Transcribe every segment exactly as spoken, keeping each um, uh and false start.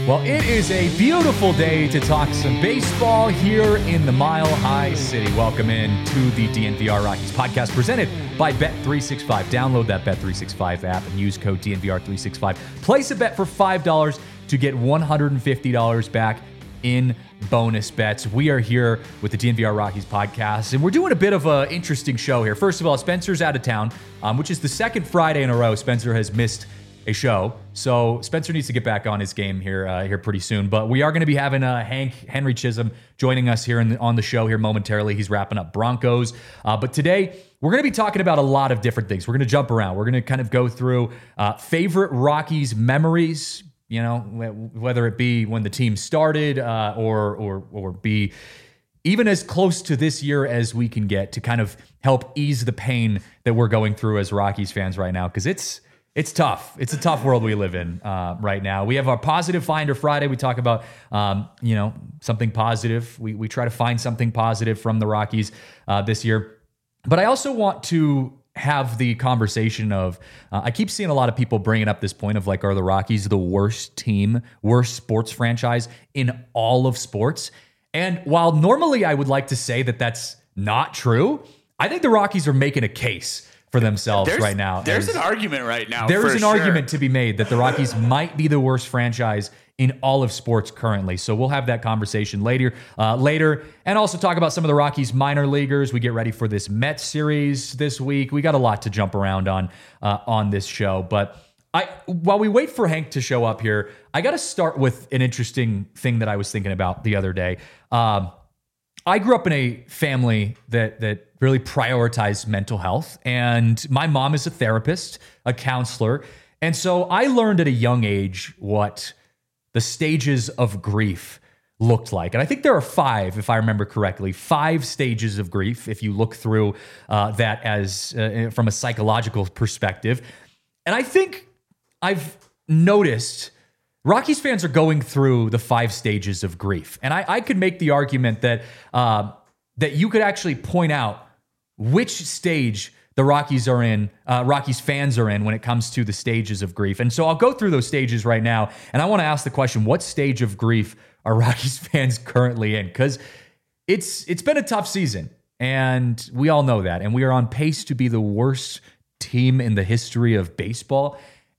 Well, it is a beautiful day to talk some baseball here in the Mile High City. Welcome in to the D N V R Rockies podcast presented by Bet three sixty-five. Download that Bet three sixty-five app and use code D N V R three sixty-five. Place a bet for five dollars to get one hundred fifty dollars back in bonus bets. We are here with the D N V R Rockies podcast, and we're doing a bit of an interesting show here. First of all, Spencer's out of town, um, which is the second Friday in a row Spencer has missed a show. So Spencer needs to get back on his game here uh, here pretty soon. But we are going to be having uh, Hank Henry Chisholm joining us here in the, on the show here momentarily. He's wrapping up Broncos. Uh, but today, we're going to be talking about a lot of different things. We're going to jump around. We're going to kind of go through uh, favorite Rockies memories, you know, whether it be when the team started uh, or, or, or be even as close to this year as we can get to kind of help ease the pain that we're going through as Rockies fans right now. Because it's It's tough. It's a tough world we live in uh, right now. We have our Positive Finder Friday. We talk about, um, you know, something positive. We we try to find something positive from the Rockies uh, this year. But I also want to have the conversation of, uh, I keep seeing a lot of people bringing up this point of like, are the Rockies the worst team, worst sports franchise in all of sports? And while normally I would like to say that that's not true, I think the Rockies are making a case for themselves there's, right now. There's an argument right now. There is an sure. argument to be made that the Rockies might be the worst franchise in all of sports currently. So we'll have that conversation later, uh, later, and also talk about some of the Rockies minor leaguers. We get ready for this Mets series this week. We got a lot to jump around on uh, on this show. But I, while we wait for Hank to show up here, I got to start with an interesting thing that I was thinking about the other day. Um, I grew up in a family that that really prioritized mental health, and my mom is a therapist, a counselor, and so I learned at a young age what the stages of grief looked like. And I think there are five, if I remember correctly, five stages of grief, if you look through uh, that as uh, from a psychological perspective. And I think I've noticed Rockies fans are going through the five stages of grief. And I, I could make the argument that uh, that you could actually point out which stage the Rockies are in, uh, Rockies fans are in when it comes to the stages of grief. And so I'll go through those stages right now. And I want to ask the question, what stage of grief are Rockies fans currently in? Because it's it's been a tough season. And we all know that. And we are on pace to be the worst team in the history of baseball.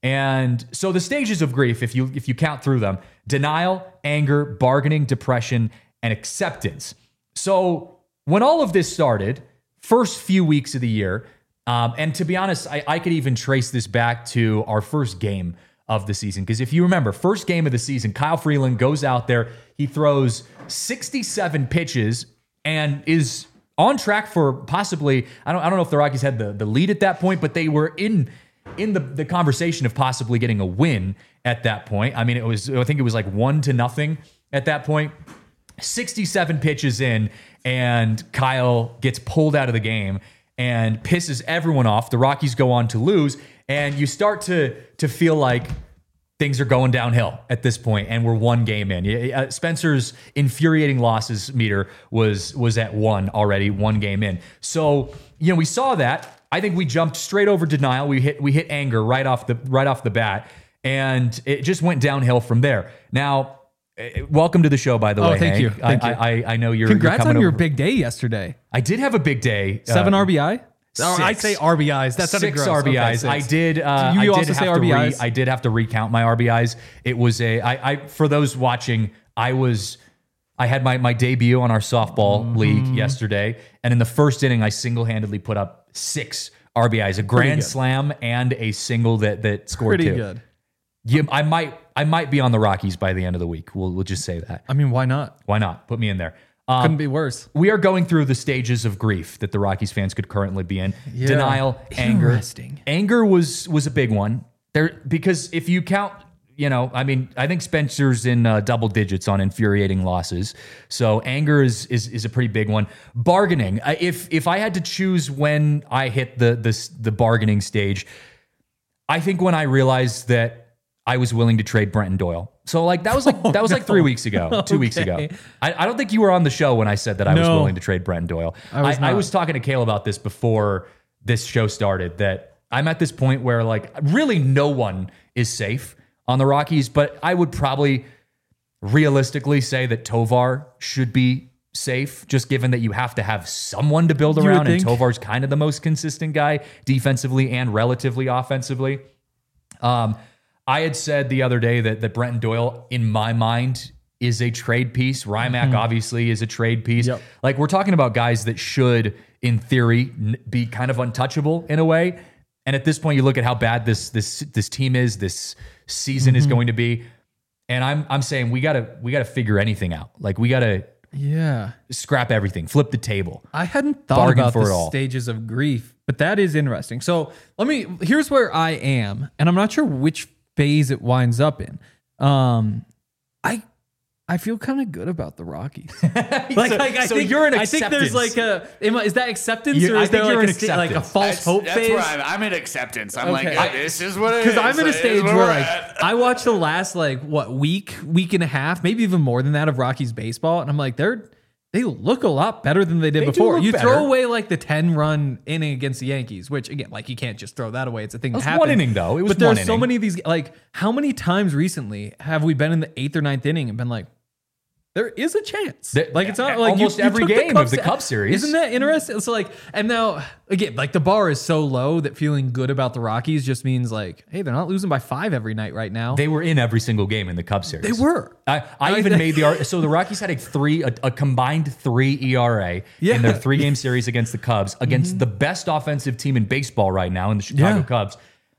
And so the stages of grief, if you if you count through them, denial, anger, bargaining, depression, and acceptance. So when all of this started, first few weeks of the year, um, and to be honest, I, I could even trace this back to our first game of the season. Because if you remember, first game of the season, Kyle Freeland goes out there, he throws sixty-seven pitches and is on track for possibly, I don't I don't know if the Rockies had the, the lead at that point, but they were in in the, the conversation of possibly getting a win at that point. I mean, it was, I think it was like one to nothing at that point. sixty-seven pitches in, and Kyle gets pulled out of the game and pisses everyone off. The Rockies go on to lose, and you start to, to feel like things are going downhill at this point, and we're one game in. Uh, Spencer's infuriating losses meter was, was at one already, one game in. So, you know, we saw that. I think we jumped straight over denial. We hit we hit anger right off the right off the bat, and it just went downhill from there. Now, welcome to the show, by the oh, way. Thank Hank. you. Thank I, you. I I know you're. Congrats you're coming on your over. big day yesterday. I did have a big day. Seven uh, R B I. Oh, I six. say R B Is. That's six R B Is. Okay, I did. Uh, Do you I also did say have to re- R B Is? I did have to recount my R B Is. It was a. I, I for those watching, I was. I had my my debut on our softball mm-hmm. league yesterday, and in the first inning, I single handedly put up six R B Is, a grand slam and a single that that scored Pretty two. good. Yeah, I might I might be on the Rockies by the end of the week. We'll we'll just say that. I mean, why not? Why not? Put me in there. Um, Couldn't be worse. We are going through the stages of grief that the Rockies fans could currently be in. Yeah. Denial, anger. Interesting. Anger was was a big one. There because if you count, you know, I mean, I think Spencer's in uh, double digits on infuriating losses. So anger is is is a pretty big one. Bargaining. Uh, if if I had to choose when I hit the the the bargaining stage, I think when I realized that I was willing to trade Brenton Doyle. So like that was like that was like three weeks ago, two weeks ago. Okay. I, I don't think you were on the show when I said that I was No. willing to trade Brenton Doyle. I was I, I not. was talking to Kale about this before this show started, that I'm at this point where like really no one is safe on the Rockies, but I would probably realistically say that Tovar should be safe, just given that you have to have someone to build around, and Tovar's kind of the most consistent guy defensively and relatively offensively. Um, I had said the other day that that Brenton Doyle, in my mind, is a trade piece. Rymack mm-hmm. obviously is a trade piece. Yep. Like, we're talking about guys that should, in theory, n- be kind of untouchable in a way. And at this point, you look at how bad this this this team is, this season mm-hmm. is going to be, and I'm I'm saying we gotta we gotta figure anything out. Like, we gotta yeah scrap everything, flip the table. I hadn't thought about the stages of grief, but that is interesting. So let me. Here's where I am, and I'm not sure which phase it winds up in. Um, I. I feel kind of good about the Rockies. Like, so, like I so think you're an I acceptance. think there's like a am I- is that acceptance You- or I is there think like you're a, an sta- like a acceptance. false That's, hope that's phase? where I'm, I'm in acceptance. I'm Okay. like, I- this is what it is. Because I'm in a It is stage where where we're like at. I watched the last like what week, week and a half, maybe even more than that of Rockies baseball, and I'm like, they're they look a lot better than they did They do before. look You better. throw away like the ten run inning against the Yankees, which again, like you can't just throw that away. It's a thing It was that happens. one inning, though. It was but there's one so inning. many of these. Like, how many times recently have we been in the eighth or ninth inning and been like, there is a chance. That- Like, it's not like almost you, you every took game of Cubs the out. Cup series. Isn't that interesting? So like, and now again, like the bar is so low that feeling good about the Rockies just means like, hey, they're not losing by five every night right now. They were in every single game in the Cup series. They were. I, I even made the ar- so the Rockies had a three a, a combined three E R A Yeah. in their three game series against the Cubs, against the best offensive team in baseball right now in the Chicago Yeah. Cubs.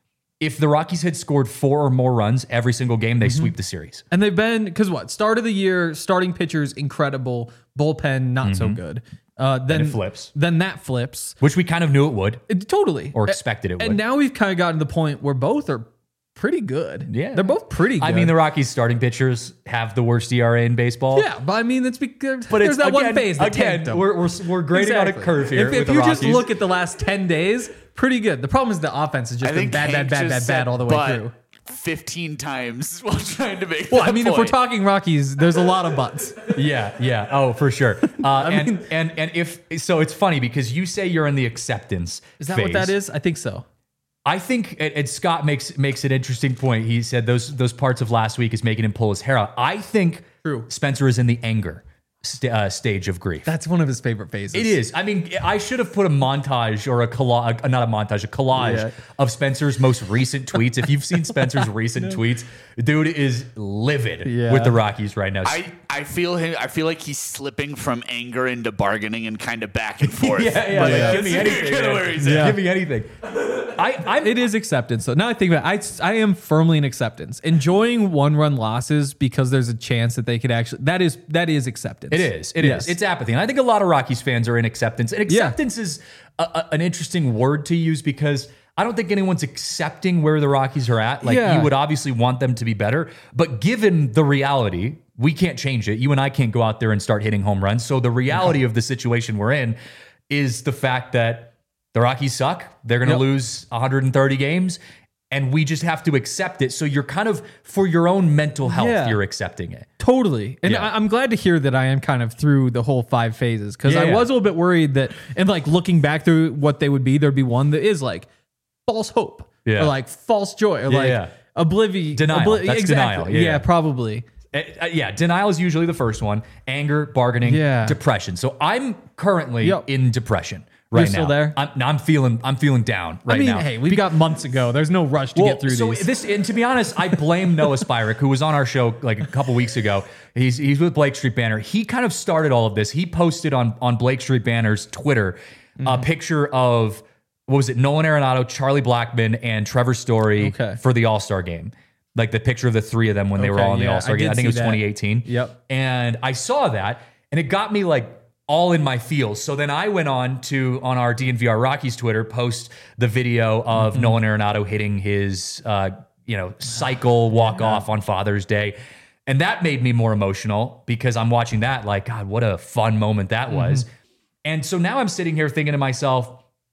If the Rockies had scored four or more runs every single game, they sweep the series. And they've been, because what? Start of the year, starting pitchers, incredible. Bullpen, not so good. Uh, then it flips. Then that flips. Which we kind of knew it would, It- totally. or expected it would. And now we've kind of gotten to the point where both are pretty good. Yeah. They're both pretty good. I mean, the Rockies starting pitchers have the worst E R A in baseball. Yeah, but I mean, it's because But there's it's that again, one phase that again tanked them. we're, we're, we're grading on a Exactly. curve here. If, with if the you Rockies. just look at the last ten days, pretty good. The problem is the offense has just I been think bad, Hank bad, bad, just bad, bad said all the way but through. fifteen times while trying to make Well, that I mean, if we're point. talking Rockies, there's a lot of butts. Yeah, yeah. Oh, for sure. Uh, and, mean- and and if so, it's funny because you say you're in the acceptance. Is that phase. what that is? I think so. I think, and and Scott makes makes an interesting point. He said those those parts of last week is making him pull his hair out. I think True. Spencer is in the anger st- uh, stage of grief. That's one of his favorite phases. It is. I mean, I should have put a montage or a collage, not a montage, a collage Yeah. of Spencer's most recent tweets. If you've seen Spencer's recent tweets, dude is livid Yeah. with the Rockies right now. I, I feel him. I feel like he's slipping from anger into bargaining and kind of back and forth. yeah, yeah. But like, that's give me anything. kinda man. where he's at. Give me anything. I, I'm It is acceptance. So now I think about it, I, I am firmly in acceptance. Enjoying one run losses because there's a chance that they could actually, that is, that is acceptance. It is. It is. Yes. It's apathy. And I think a lot of Rockies fans are in acceptance. And acceptance is a, a, an interesting word to use because I don't think anyone's accepting where the Rockies are at. Like, Yeah. you would obviously want them to be better. But given the reality, we can't change it. You and I can't go out there and start hitting home runs. So the reality of the situation we're in is the fact that the Rockies suck. They're going to Yep. lose one hundred thirty games. And we just have to accept it. So you're kind of, for your own mental health, Yeah. you're accepting it. Totally. And Yeah. I, I'm glad to hear that I am kind of through the whole five phases because Yeah, I yeah. was a little bit worried that, and like looking back through what they would be, there'd be one that is like false hope Yeah. or like false joy or Yeah, like yeah. oblivion. Denial. That's exactly. denial. Yeah, yeah. probably. Uh, uh, yeah, denial is usually the first one. Anger, bargaining, Yeah. depression. So I'm currently Yep. in depression right You're now. still there? I'm, no, I'm feeling. I'm feeling down right I mean, now. hey, we've got months ago. There's no rush to Well, get through so these. this, and to be honest, I blame Noah Spyrick, who was on our show like a couple weeks ago. He's he's with Blake Street Banner. He kind of started all of this. He posted on on Blake Street Banner's Twitter Mm-hmm. a picture of what was it? Nolan Arenado, Charlie Blackmon, and Trevor Story Okay. for the All Star game. Like the picture of the three of them when they were Okay, all in the yeah, All Star I game. did I think it was see that. twenty eighteen. Yep. And I saw that, and it got me like all in my feels. So then I went on to on our D N V R Rockies Twitter post the video of Mm-hmm. Nolan Arenado hitting his uh, you know cycle walk off on Father's Day, and that made me more emotional because I'm watching that like, God, what a fun moment that Mm-hmm. was. And so now I'm sitting here thinking to myself,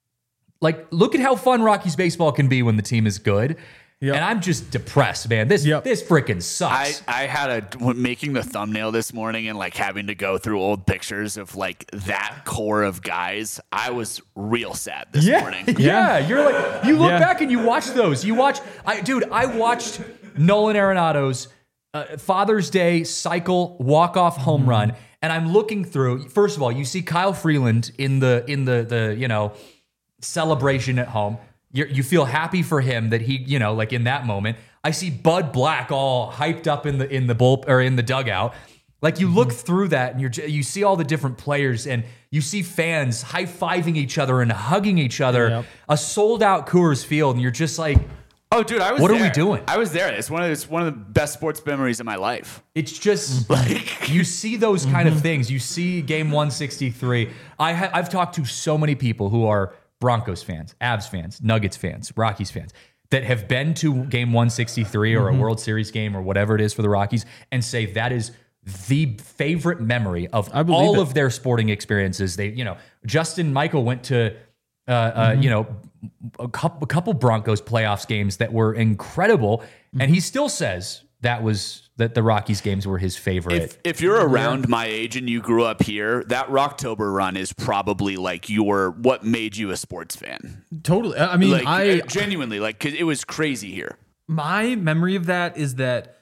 like, look at how fun Rockies baseball can be when the team is good. Yep. And I'm just depressed, man. This Yep. this freaking I, sucks. I had a when making the thumbnail this morning and like having to go through old pictures of like that core of guys. I was real sad this yeah, morning. yeah. You're like, you look Yeah. back and you watch those. You watch, I dude, I watched Nolan Arenado's uh, Father's Day cycle walk-off home Mm-hmm. run, and I'm looking through. First of all, you see Kyle Freeland in the in the the you know celebration at home. You're, you feel happy for him that he you know like in that moment. I see Bud Black all hyped up in the in the bull or in the dugout. Like you look through that and you're you see all the different players and you see fans high-fiving each other and hugging each other. Yep. A sold-out Coors Field, and you're just like, Oh, dude, I was What there. are we doing? I was there. It's one of it's one of the best sports memories of my life. it's just like you see those kind of things. You see Game one sixty-three. I ha- I've talked to so many people who are Broncos fans, Avs fans, Nuggets fans, Rockies fans that have been to Game one sixty-three or a World Series game or whatever it is for the Rockies and say that is the favorite memory of I believe all it. of their sporting experiences. They, you know, Justin Michael went to, uh, uh, you know, a couple, a couple Broncos playoffs games that were incredible, and he still says that was that the Rockies games were his favorite. If, if you're around my age and you grew up here, that Rocktober run is probably like your what made you a sports fan. Totally. I mean, Like I uh, genuinely, like 'cause it was crazy here. my memory of that is that.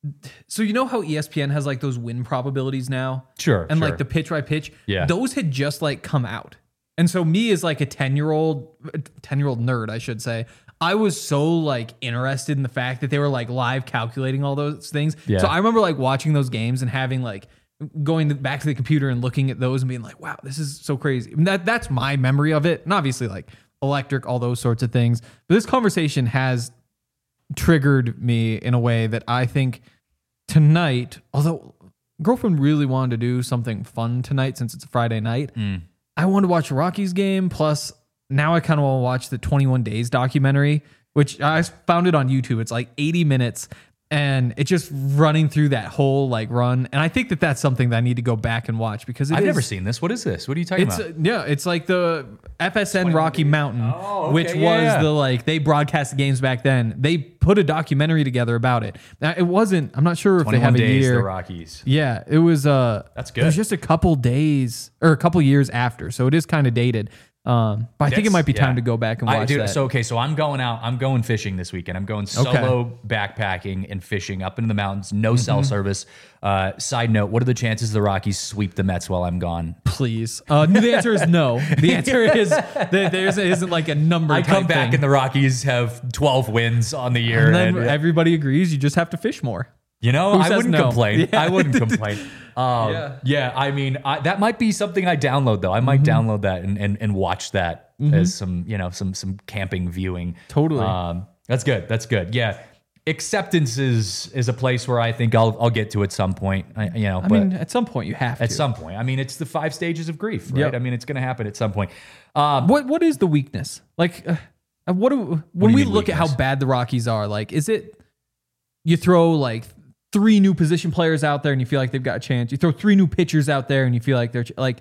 So you know how E S P N has like those win probabilities now? Sure, And sure. like the pitch by pitch? Yeah. Those had just like come out. And so me as like a ten-year-old ten-year-old nerd, I should say, I was so like interested in the fact that they were like live calculating all those things. Yeah. So I remember like watching those games and having like going back to the computer and looking at those and being like, wow, this is so crazy. And that that's my memory of it. And obviously like electric, all those sorts of things. But this conversation has triggered me in a way that I think tonight, although girlfriend really wanted to do something fun tonight since it's a Friday night, I wanted to watch a Rockies game. Plus, now I kind of want to watch the twenty-one Days documentary, which I found it on YouTube. It's like eighty minutes. And it's just running through that whole like run, and I think that that's something that I need to go back and watch because it I've is- never seen this. What is this? What are you talking It's about? uh, yeah, it's like the F S N Rocky Mountain, Oh, okay, which yeah, was yeah. the like they broadcast the games back then. They put a documentary together about it. Now it wasn't. I'm not sure if they twenty-one have a days, year. the Rockies. Yeah, it was. Uh, That's It good. was just a couple days or a couple years after, so it is kind of dated. Um, but I think it That's- might be time yeah. to go back and watch I, dude, that. So okay, so I'm going out. I'm going fishing this weekend. I'm going solo backpacking and fishing up into the mountains. No Mm-hmm. cell service. Uh, side note: what are the chances the Rockies sweep the Mets while I'm gone? Please. Uh, the answer is no. The answer is that there isn't like a number. I come type back thing. and the Rockies have twelve wins on the year. And then and- everybody agrees you just have to fish more. You know, Who I says wouldn't no? complain. Yeah. I wouldn't complain. Um, Yeah. yeah. I mean, I, that might be something I download though. I might Mm-hmm. download that and, and, and watch that as some, you know, some some camping viewing. Totally. Um, that's good. That's good. Yeah. Acceptance is is a place where I think I'll I'll get to at some point. I, you know, I but mean, at some point you have at to. some point. I mean, it's the five stages of grief, right? Yep. I mean, it's going to happen at some point. Um, What what is the weakness? Like, uh, what do when do you we mean look at how weakness? bad the Rockies are? Like, is it you throw like three new position players out there and you feel like they've got a chance? You throw three new pitchers out there and you feel like they're ch- like.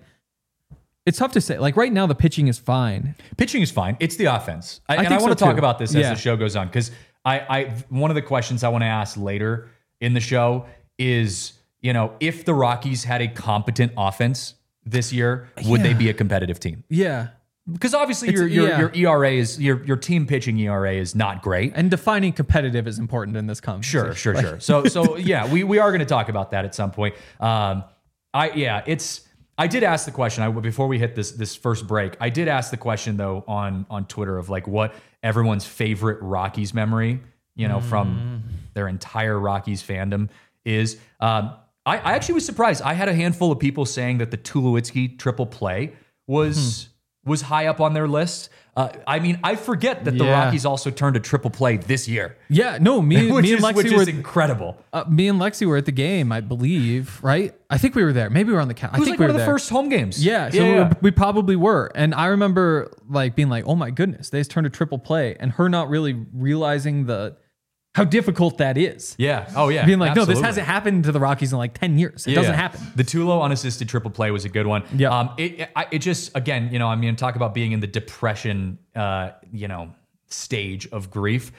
It's tough to say. Like right now, the pitching is fine. Pitching is fine. It's the offense. I, and I think want so, to talk too. about this Yeah. as the show goes on because I, I one of the questions I want to ask later in the show is, you know, if the Rockies had a competent offense this year, would they Yeah. be a competitive team? Yeah, Because obviously It's- your your, yeah. your E R A is your your team pitching E R A is not great. and defining competitive is important in this conversation. Sure, sure, sure. So, so yeah, we, we are going to talk about that at some point. Um, I yeah, it's. I did ask the question I, before we hit this this first break. I did ask the question though on on Twitter of like what everyone's favorite Rockies memory, you know, from their entire Rockies fandom is. Um, I, I actually was surprised. I had a handful of people saying that the Tulowitzki triple play was was high up on their list. Uh, I mean, I forget that the Yeah. Rockies also turned a triple play this year. Yeah, no, me, Which me is, and which Lexi is were incredible. uh, me and Lexi were at the game, I believe. Right? I think we were there. Maybe we were on the couch. I It was think like we one were of the there. first home games. Yeah, so yeah, we, yeah. were- we probably were. And I remember like being like, "Oh my goodness, they just turned a triple play," and her not really realizing the how difficult that is. Yeah. Oh, yeah. Being like, "No, this absolutely. hasn't happened to the Rockies in like ten years. It Yeah. doesn't happen." The Tulo unassisted triple play was a good one. Yeah. Um, it, it, I- it just, again, you know, I mean, talk about being in the depression, uh, you know, stage of grief.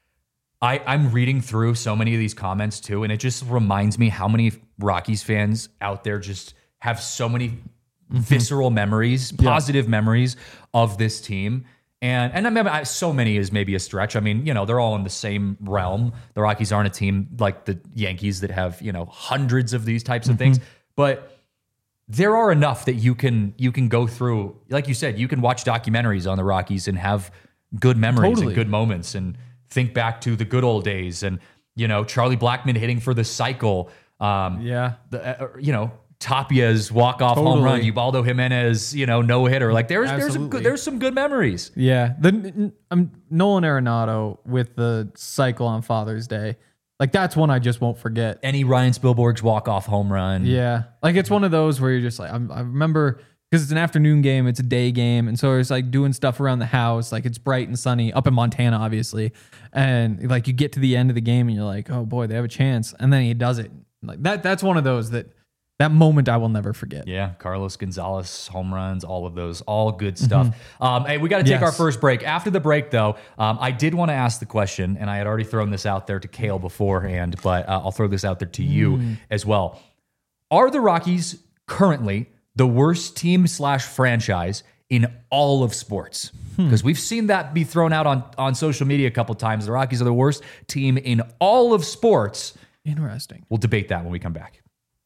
I, I'm reading through so many of these comments too, and it just reminds me how many Rockies fans out there just have so many visceral memories, positive memories of this team. And and I mean, I- so many is maybe a stretch. I mean, you know, they're all in the same realm. The Rockies aren't a team like the Yankees that have, you know, hundreds of these types of things. But there are enough that you can you can go through. Like you said, you can watch documentaries on the Rockies and have good memories Totally. and good moments and think back to the good old days. And, you know, Charlie Blackmon hitting for the cycle. Um, Yeah. the, uh, you know, Tapia's walk-off home Totally. run, Ubaldo Jimenez, you know, no-hitter. Like there's there's a Absolutely. good, there's some good memories. Yeah. The um, Nolan Arenado with the cycle on Father's Day. Like that's one I just won't forget. Any Ryan Spielberg's walk-off home run. Yeah. Like it's one of those where you're just like, I'm, I remember because it's an afternoon game, it's a day game. And so it's like doing stuff around the house. Like it's bright and sunny up in Montana, obviously. And like you get to the end of the game and you're like, oh boy, they have a chance. And then he does it. Like that, that's one of those that that moment I will never forget. Yeah, Carlos Gonzalez home runs, all of those, all good stuff. Um, hey, we got to take Yes. our first break. After the break, though, um, I did want to ask the question, and I had already thrown this out there to Kale beforehand, but uh, I'll throw this out there to you as well. Are the Rockies currently the worst team slash franchise in all of sports? Because we've seen that be thrown out on, on social media a couple times. The Rockies are the worst team in all of sports. Interesting. We'll debate that when we come back.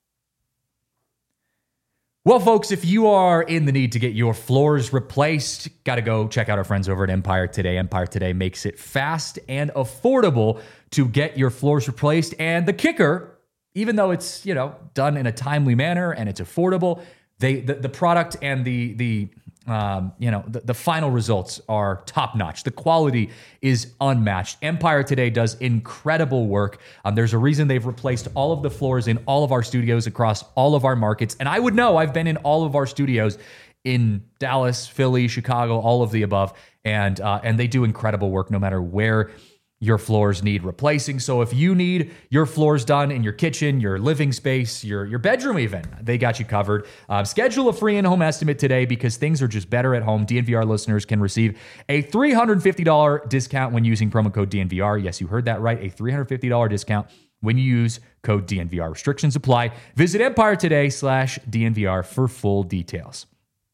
Well, folks, if you are in the need to get your floors replaced, got to go check out our friends over at Empire Today. Empire Today makes it fast and affordable to get your floors replaced. And the kicker, even though it's, you know, done in a timely manner and it's affordable, they the, the product and the the um, you know the, the final results are top notch. The quality is unmatched. Empire Today does incredible work. Um, there's a reason they've replaced all of the floors in all of our studios across all of our markets. And I would know, I've been in all of our studios in Dallas, Philly, Chicago, all of the above, and uh, and they do incredible work no matter where your floors need replacing. So if you need your floors done in your kitchen, your living space, your, your bedroom even, they got you covered. Uh, schedule a free in-home estimate today because things are just better at home. D N V R listeners can receive a three hundred fifty dollars discount when using promo code D N V R. Yes, you heard that right. A three hundred fifty dollars discount when you use code D N V R. Restrictions apply. Visit Empire Today slash D N V R for full details.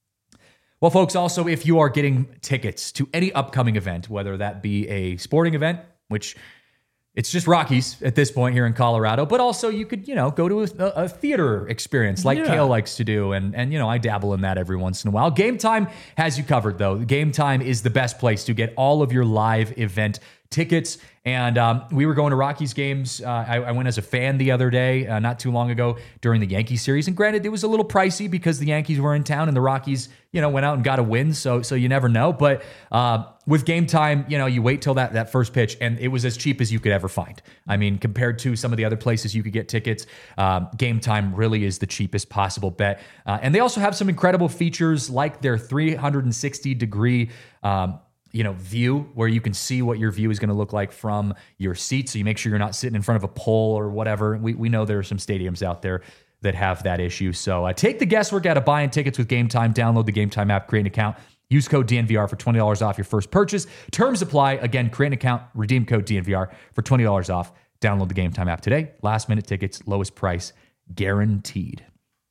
Well, folks, also, if you are getting tickets to any upcoming event, whether that be a sporting event, which it's just Rockies at this point here in Colorado, but also you could, you know, go to a, a theater experience like Yeah. Kale likes to do. And, and, you know, I dabble in that every once in a while. Game Time has you covered, though. Game Time is the best place to get all of your live event tickets. And um, we were going to Rockies games. Uh, I, I went as a fan the other day, uh, not too long ago during the Yankee series. And granted, it was a little pricey because the Yankees were in town and the Rockies, you know, went out and got a win. So, so you never know. But uh, with Game Time, you know, you wait till that that first pitch, and it was as cheap as you could ever find. I mean, compared to some of the other places you could get tickets, um, Game Time really is the cheapest possible bet. Uh, and they also have some incredible features like their three hundred sixty degree um, you know, view where you can see what your view is going to look like from your seat. So you make sure you're not sitting in front of a pole or whatever. We we know there are some stadiums out there that have that issue. So uh, take the guesswork out of buying tickets with Game Time. Download the Game Time app, create an account, use code D N V R for twenty dollars off your first purchase. Terms apply. Again, create an account, redeem code D N V R for twenty dollars off. Download the Game Time app today. Last minute tickets, lowest price guaranteed.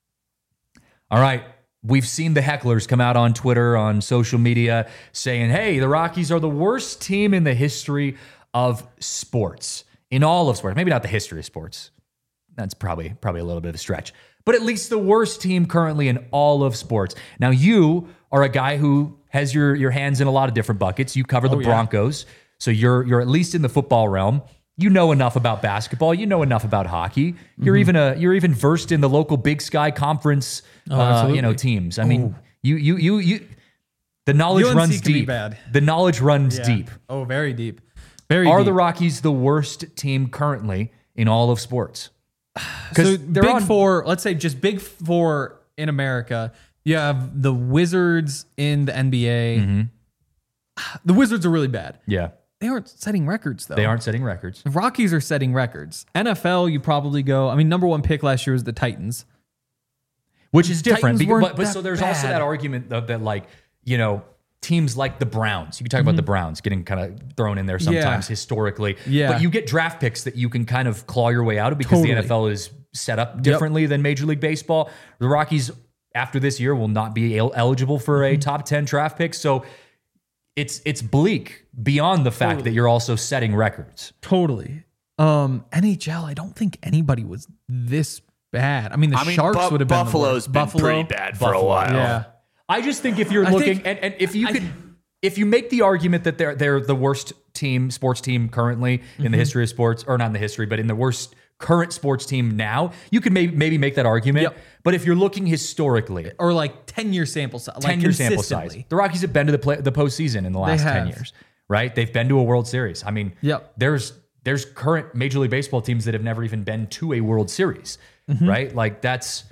All right. We've seen the hecklers come out on Twitter, on social media, saying, hey, the Rockies are the worst team in the history of sports, in all of sports. Maybe not the history of sports. That's probably probably a little bit of a stretch. But at least the worst team currently in all of sports. Now, you are a guy who has your, your hands in a lot of different buckets. You cover the yeah. Broncos, so you're you're at least in the football realm. You know enough about basketball. You know enough about hockey. You're Mm-hmm. even a you're even versed in the local Big Sky Conference, Oh, uh, you absolutely. know, teams. I mean, you you you you. The knowledge U N C runs can be deep. bad. The knowledge runs Yeah. deep. Oh, very deep. Very Are deep. the Rockies the worst team currently in all of sports? So Because they're big on four, let's say just big four in America. You have the Wizards in the N B A. Mm-hmm. The Wizards are really bad. Yeah, They aren't setting records though. they aren't setting records. The Rockies are setting records. N F L, you probably go. I mean, number one pick last year was the Titans. Which is different. Titans Because, weren't but, but that so there's also bad. that argument that, that like, you know, teams like the Browns, you can talk about the Browns getting kind of thrown in there sometimes Mm-hmm. Yeah. historically. Yeah. But you get draft picks that you can kind of claw your way out of because the Totally. N F L is set up differently than Major League Baseball. The Rockies, after this year, will not be el- eligible for Mm-hmm. a top ten draft pick. So it's it's bleak beyond the fact Totally. that you're also setting records. Totally. Um, N H L, I don't think anybody was this bad. I mean, the I mean, Sharks Bu- would have been Buffalo's the been worst. Buffalo, pretty bad for Buffalo, a while. yeah. I just think if you're I looking think- and, and if you I- could if you make the argument that they're they're the worst team sports team currently in Mm-hmm. the history of sports, or not in the history, but in the worst current sports team now, you could maybe maybe make that argument. Yep. But if you're looking historically, Or like ten year sample size. Like ten year sample size, consistently. the Rockies have been to the play, the postseason in the last ten have. years, right? They've been to a World Series. I mean, Yep. there's there's current Major League Baseball teams that have never even been to a World Series, Mm-hmm. right? Like that's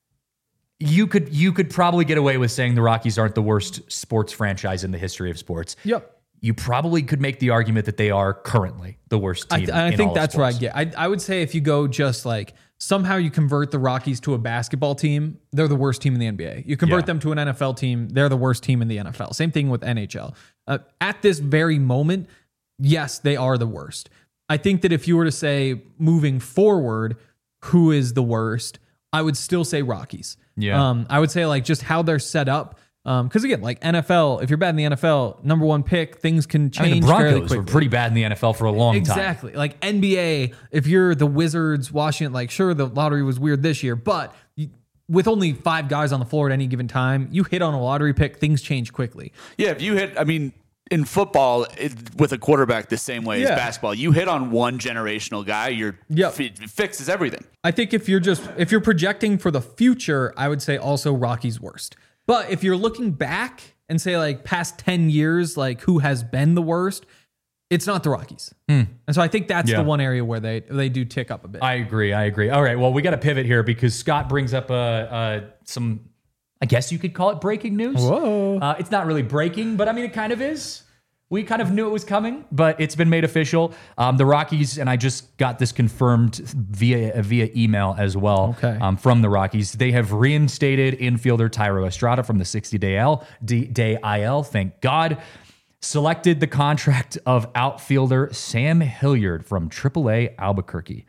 you could you could probably get away with saying the Rockies aren't the worst sports franchise in the history of sports. Yep. You probably could make the argument that they are currently the worst I, team. th- I in think all of that's where I sports. get. I, I would say if you go just like somehow you convert the Rockies to a basketball team, they're the worst team in the N B A. You convert Yeah. them to an N F L team, they're the worst team in the N F L. Same thing with N H L. Uh, at this very moment, yes, they are the worst. I think that if you were to say moving forward, who is the worst, I would still say Rockies. Yeah. Um, I would say like just how they're set up. Because again, like N F L, if you're bad in the N F L, number one pick, things can I change mean, the fairly Broncos quickly. were pretty bad in the N F L for a long time. Exactly. Like N B A, if you're the Wizards, Washington, like sure, the lottery was weird this year, but you, with only five guys on the floor at any given time, you hit on a lottery pick, things change quickly. Yeah, if you hit, I mean, in football, it, with a quarterback the same way Yeah. as basketball, you hit on one generational guy, you're Yep. it fixes everything. I think if you're just if you're projecting for the future, I would say also Rockies worst. But if you're looking back and say like past ten years, like who has been the worst, it's not the Rockies. And so I think that's Yeah. the one area where they they do tick up a bit. I agree. I agree. All right. Well, we got to pivot here because Scott brings up uh, uh, some, I guess you could call it breaking news. Whoa. Uh, it's not really breaking, but I mean, it kind of is. We kind of knew it was coming, but it's been made official. Um, the Rockies, and I just got this confirmed via via email as well. Okay. Um, from the Rockies, they have reinstated infielder Tyro Estrada from the sixty-day L D, day I L. Thank God. Selected the contract of outfielder Sam Hilliard from triple A Albuquerque.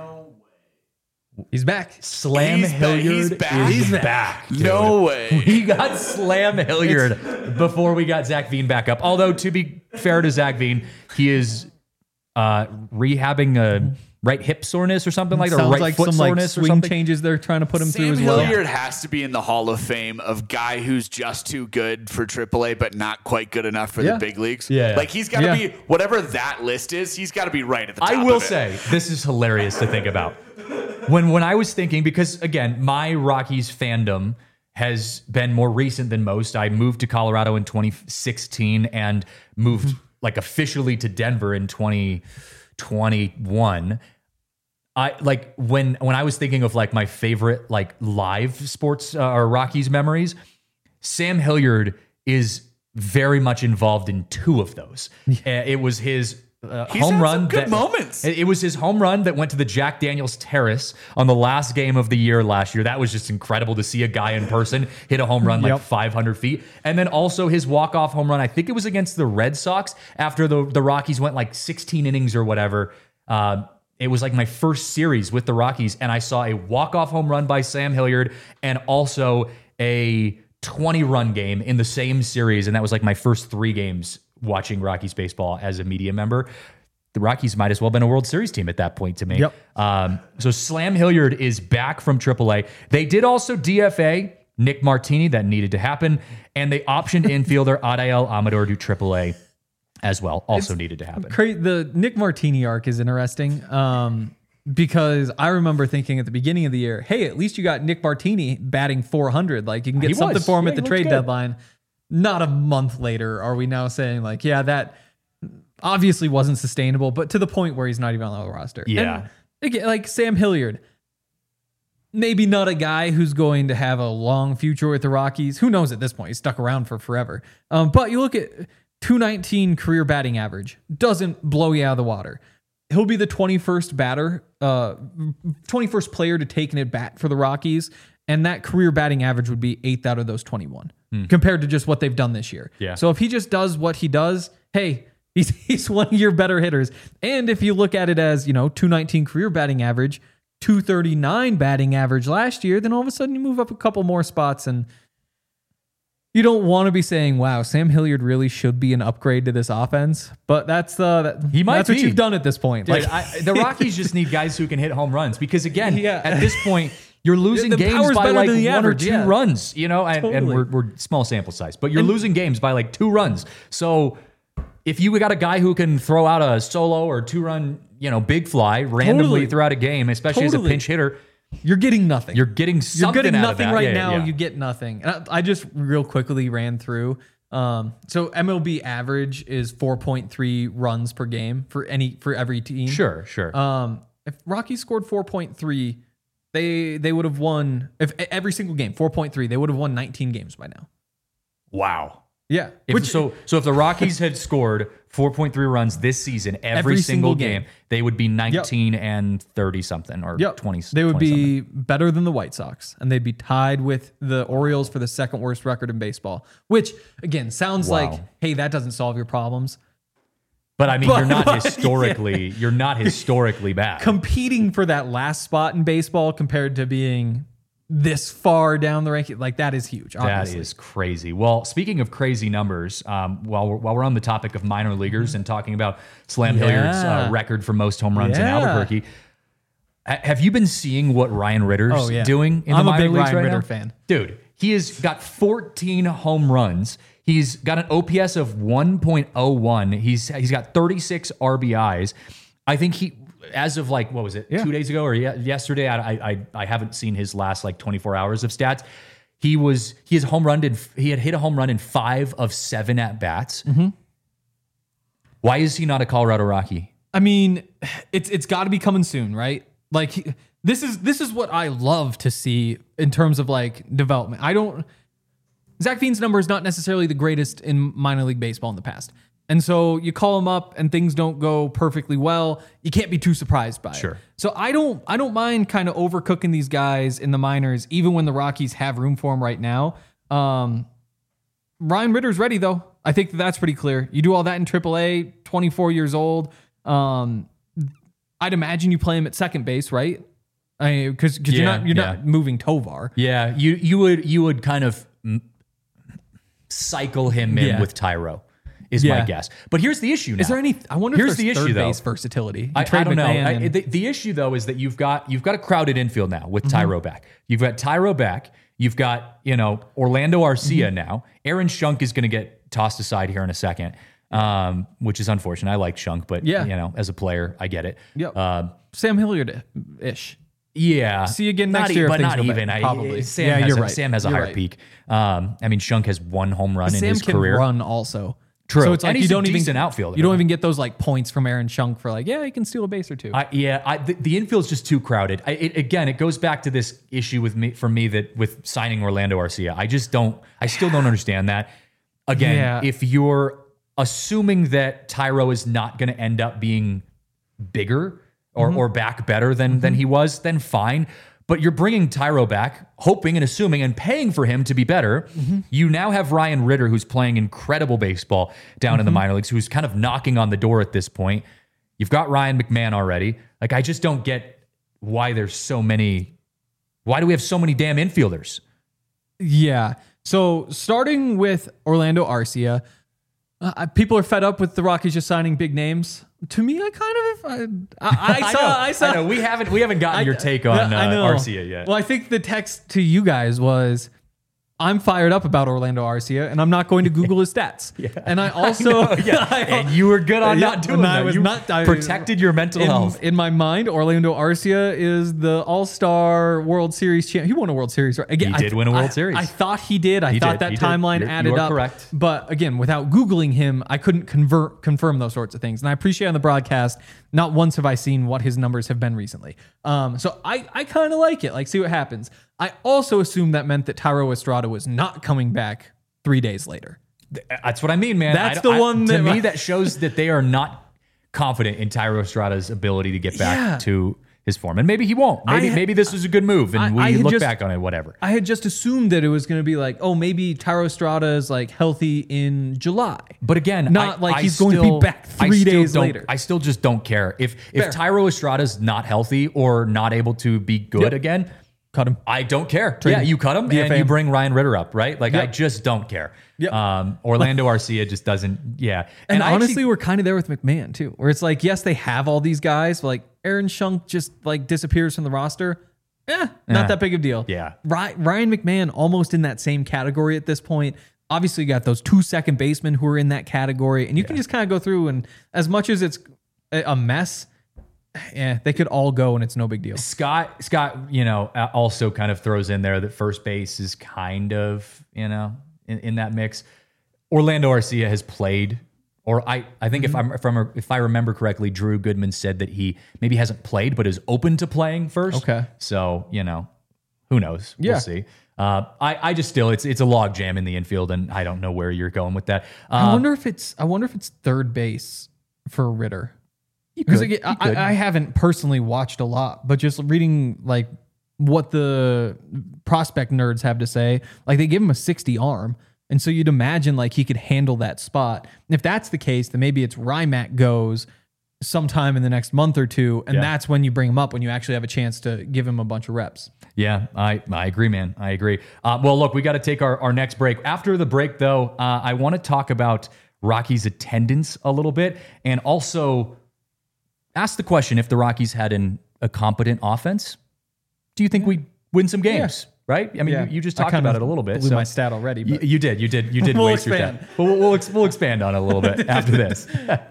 He's back. Slam He's back. Hilliard He's back. is He's back. dude. No way. We got Slam Hilliard before we got Zach Veen back up. Although, to be fair to Zach Veen, he is uh, rehabbing a right hip soreness or something like that, or Sounds right like foot some like soreness or swing something. changes they're trying to put him through Sam as well. Hilliard has to be in the Hall of Fame of guy who's just too good for triple A, but not quite good enough for Yeah. the big leagues. Yeah. Like he's got to Yeah. be, whatever that list is, he's got to be right at the top I will of it. say, this is hilarious to think about. When when I was thinking, because again, my Rockies fandom has been more recent than most. I moved to Colorado in twenty sixteen and moved like officially to Denver in twenty twenty-one. I like when when I was thinking of like my favorite like live sports uh, or Rockies memories, Sam Hilliard is very much involved in two of those. Uh, it was his uh, He's home had run some good that, moments. It, it was his home run that went to the Jack Daniels Terrace on the last game of the year last year. That was just incredible to see a guy in person hit a home run like Yep. five hundred feet. And then also his walk-off home run, I think it was against the Red Sox after the, the Rockies went like sixteen innings or whatever. Uh, it was like my first series with the Rockies, and I saw a walk-off home run by Sam Hilliard and also a twenty-run game in the same series, and that was like my first three games watching Rockies baseball as a media member. The Rockies might as well have been a World Series team at that point to me. Yep. Um, so Slam Hilliard is back from triple A. They did also D F A Nick Martini. That needed to happen. And they optioned infielder Adael Amador to triple A as well. Also needed to happen. Cra- the Nick Martini arc is interesting um, because I remember thinking at the beginning of the year, hey, at least you got Nick Martini batting four hundred. Like you can get He something was. for him Yeah, at the he looked trade good. deadline. Not a month later are we now saying like, yeah, that obviously wasn't sustainable, but to the point where he's not even on the roster. Yeah. And again, like Sam Hilliard, maybe not a guy who's going to have a long future with the Rockies. Who knows at this point? He's stuck around for forever. Um, but you look at two nineteen career batting average. Doesn't blow you out of the water. He'll be the twenty-first batter, uh, twenty-first player to take an at bat for the Rockies. And that career batting average would be eighth out of those twenty-one compared to just what they've done this year. Yeah. So if he just does what he does, hey, he's, he's one of your better hitters. And if you look at it as, you know, two nineteen career batting average, two thirty-nine batting average last year, then all of a sudden you move up a couple more spots and You don't want to be saying, "Wow, Sam Hilliard really should be an upgrade to this offense," but that's uh, that, He might that's what be. you've done at this point. Dude, Like I, the Rockies just need guys who can hit home runs because, again, Yeah. at this point, you're losing The games power's by better like than one the or average, two yeah. runs, you know, and, and Totally. we're, we're small sample size, but you're losing games by like two runs. So if you got a guy who can throw out a solo or two run, you know, big fly randomly Totally. throughout a game, especially as a Totally. pinch hitter, you're getting nothing. you're getting You're something getting out nothing of that. right Yeah, now. yeah. You get nothing. And I, I just real quickly ran through. Um, so M L B average is four point three runs per game for any for every team. Sure, sure. Um, if Rockies scored four point three, they they would have won if every single game four point three. They would have won nineteen games by now. Wow. Yeah. If, Which so, so if the Rockies had scored four point three runs this season, every, Every single single game, game. they would be nineteen and thirty something or Yep. twenty. They would twenty be something. better than the White Sox, and they'd be tied with the Orioles for the second worst record in baseball. Which again sounds Wow. like, hey, that doesn't solve your problems. But I mean, But- you're not but- historically, you're not historically bad. Competing for that last spot in baseball compared to being this far down the ranking, like that is huge. That Obviously. is crazy. Well, speaking of crazy numbers, um, while we're, while we're on the topic of minor leaguers and talking about Slam Yeah. Hilliard's uh, record for most home runs in Yeah. Albuquerque, ha- have you been seeing what Ryan Ritter's Oh, yeah. doing in I'm the a minor big leagues Ryan right Ritter now? fan. Dude, he has got fourteen home runs. He's got an O P S of one point oh one. He's he's got thirty-six R B Is. I think he, as of like, what was it, Yeah. two days ago or ye- yesterday? I, I I haven't seen his last like twenty-four hours of stats. He was he has home run in, he had hit a home run in five of seven at bats. Mm-hmm. Why is he not a Colorado Rocky? I mean, it's it's got to be coming soon, right? Like he- this is this is what I love to see in terms of like development. I don't Zach Veen's number is not necessarily the greatest in minor league baseball in the past. And so you call him up and things don't go perfectly well, you can't be too surprised by Sure. it. So I don't I don't mind kind of overcooking these guys in the minors, even when the Rockies have room for him right now. Um, Ryan Ritter's ready though. I think that that's pretty clear. You do all that in triple A, twenty-four years old. Um, I'd imagine you play him at second base, right? I because because you're Yeah, not you're yeah. not moving Tovar. Yeah, you you would you would kind of mm, cycle him in Yeah. with Tyro, is my Yeah. guess. But here's the issue now. Is there any? I wonder Here's if the there's issue, third though. base versatility. You I, trade I don't know. McMahon I, and- the, the issue though is that you've got you've got a crowded infield now with Mm-hmm. Tyro back. You've got Tyro back. You've got you know Orlando Arcia Mm-hmm. now. Aaron Schunk is going to get tossed aside here in a second, um, which is unfortunate. I like Schunk, but Yeah. you know as a player, I get it. Yep. Um, Sam Hilliard ish. yeah. See you again Not next e- year if but things not go bad. even. I, Probably. Sam Yeah, has you're a, right. Sam has a You're higher right. peak. Um, I mean, Schunk has one home run in Sam his can career. run also. True. So it's like And you he's a don't even decent outfielder. You don't even get those like points from Aaron Schunk for like yeah he can steal a base or two. I, yeah, I, the, the infield's just too crowded. I, it, again, it goes back to this issue with me for me that with signing Orlando Arcia. I just don't. I still don't understand that. Again, Yeah. if you're assuming that Tyro is not going to end up being bigger or, Mm-hmm. or back better than than he was, then fine. But you're bringing Tyro back, hoping and assuming and paying for him to be better. Mm-hmm. You now have Ryan Ritter, who's playing incredible baseball down Mm-hmm. in the minor leagues, who's kind of knocking on the door at this point. You've got Ryan McMahon already. Like, I just don't get why there's so many. Why do we have so many damn infielders? Yeah. So starting with Orlando Arcia, uh, people are fed up with the Rockies just signing big names. To me, I kind of I, I, I saw know, I saw I know. We haven't we haven't gotten your take on uh, I know. Arcia yet. Well, I think the text to you guys was, I'm fired up about Orlando Arcia, and I'm not going to Google his stats. And I also, I know, yeah. and you were good on Yeah, not doing and I that. was you not- I- protected your mental in, health. in my mind, Orlando Arcia is the All-Star World Series champ. He won a World Series, right? Again, He I did win a World I- Series. I thought he did. I He thought did. that He did. timeline You're- added you are up. correct. But again, without Googling him, I couldn't convert confirm those sorts of things. And I appreciate on the broadcast, not once have I seen what his numbers have been recently. Um, so I, I kind of like it. Like, see what happens. I also assumed that meant that Tyro Estrada was not coming back three days later. That's what I mean, man. That's I- the I- one to that- me that shows that they are not confident in Tyro Estrada's ability to get back Yeah. to his form, and maybe he won't. Maybe I- maybe this was a good move, and I- we I had look just- back on it, whatever. I had just assumed that it was going to be like, oh, maybe Tyro Estrada is like healthy in July. But again, Not I- like I he's going to be still- back I three still days don't- later. I still just don't care if Fair. if Tyro Estrada's not healthy or not able to be good Yep. again. Cut him. I don't care. Trade yeah, him. you cut him D F A and you him. bring Ryan Ritter up, right? Like, I Yep. just don't care. Yep. Um, Orlando Arcia just doesn't, yeah. And, I honestly, actually- we're kind of there with McMahon too, where it's like, yes, they have all these guys, but like Aaron Shunk just like disappears from the roster. Eh, not Eh. that big of a deal. Yeah. Ry- Ryan McMahon almost in that same category at this point. Obviously, you got those two second basemen who are in that category, and you can just kind of go through and as much as it's a a mess, yeah, they could all go and it's no big deal. Scott, Scott, you know, uh, also kind of throws in there that first base is kind of, you know, in, in that mix. Orlando Arcia has played, or I, I think if I'm from if I remember correctly, Drew Goodman said that he maybe hasn't played but is open to playing first. Okay. So, you know, who knows? Yeah. We'll see. Uh, I, I just still it's it's a log jam in the infield, and I don't know where you're going with that. I Uh, wonder if it's I wonder if it's third base for Ritter. you Because could, again, you could. I, I haven't personally watched a lot, but just reading like what the prospect nerds have to say, like they give him a sixty arm. And so you'd imagine like he could handle that spot. And if that's the case, then maybe it's Rymack goes sometime in the next month or two. And Yeah. that's when you bring him up, when you actually have a chance to give him a bunch of reps. Yeah, I, I agree, man. I agree. Uh, well, look, we got to take our, our next break. After the break, though, uh, I want to talk about Rockies' attendance a little bit, and also ask the question, if the Rockies had an, a competent offense, do you think we'd win some games? Right? I mean, Yeah. you, you just I talked kind about of it a little bit. blew so- my stat already, You, but- you did. You did. You did We'll waste expand. your time. But we'll, we'll, ex- we'll expand on it a little bit after this.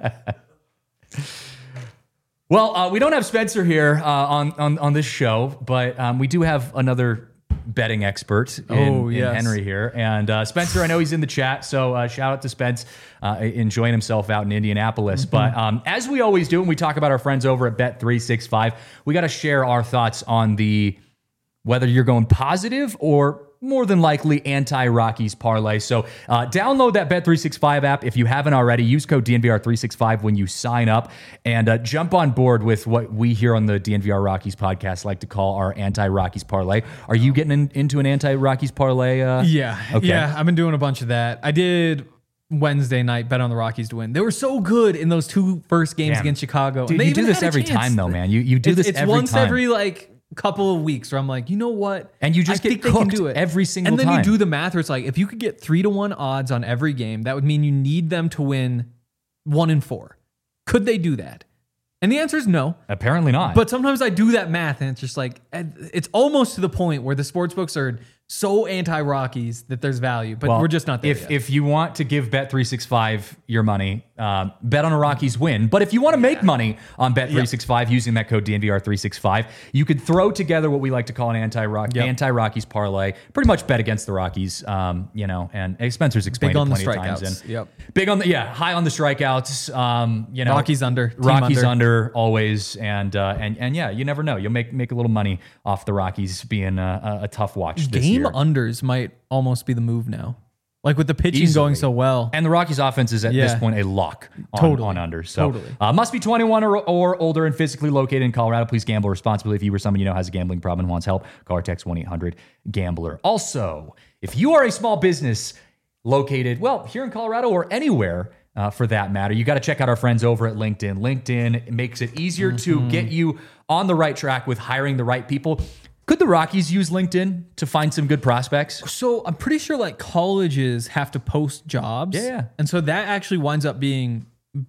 Well, uh, we don't have Spencer here uh, on, on on this show, but um, we do have another betting expert in, Oh, in yes. Henry here. And uh, Spencer, I know he's in the chat, so uh, shout out to Spence uh, enjoying himself out in Indianapolis. Mm-hmm. But um, as we always do when we talk about our friends over at Bet three sixty-five, we got to share our thoughts on the whether you're going positive or more than likely anti-Rockies parlay. So uh, download that Bet three sixty-five app if you haven't already. Use code D N V R three sixty-five when you sign up, and uh, jump on board with what we here on the D N V R Rockies podcast like to call our anti-Rockies parlay. Are you getting in, into an anti-Rockies parlay? Uh, Yeah. Okay. Yeah. I've been doing a bunch of that. I did Wednesday night, bet on the Rockies to win. They were so good in those two first games Damn. against Chicago. Dude, and they you do even this had a every chance. time, though, man. You you do It's, this it's every once time. every like couple of weeks where I'm like, you know what? And you just I get think they can cooked do it every single And then time. you do the math where it's like, if you could get three to one odds on every game, that would mean you need them to win one in four. Could they do that? And the answer is no. Apparently not. But sometimes I do that math and it's just like, it's almost to the point where the sports books are so anti-Rockies that there's value, but Well, we're just not there If yet. if you want to give Bet three sixty-five your money, um, bet on a Rockies win. But if you want to make money on Bet three sixty-five using that code D N V R three sixty-five, you could throw together what we like to call an anti-Rock Yep. anti-Rockies parlay. Pretty much bet against the Rockies, um, you know. And hey, Spencer's explained Big on it the plenty of times. strikeouts. And Yep. big on the yeah, high on the strikeouts. Um, you know, Rockies under, team Rockies under. under always, and uh, and and yeah, you never know. You'll make make a little money off the Rockies being a, a, a tough watch this Game year. unders might almost be the move now. Like with the pitching Easily. going so well. And the Rockies' offense is at this Yeah. point a lock on, Totally. on under. So Totally. uh, must be twenty-one or, or older and physically located in Colorado. Please gamble responsibly. If you or someone you know has a gambling problem and wants help, call or text one eight hundred gambler. Also, if you are a small business located, well, here in Colorado or anywhere uh, for that matter, you got to check out our friends over at LinkedIn. LinkedIn makes it easier to Mm-hmm. get you on the right track with hiring the right people. Could the Rockies use LinkedIn to find some good prospects? So I'm pretty sure like colleges have to post jobs. Yeah, yeah. And so that actually winds up being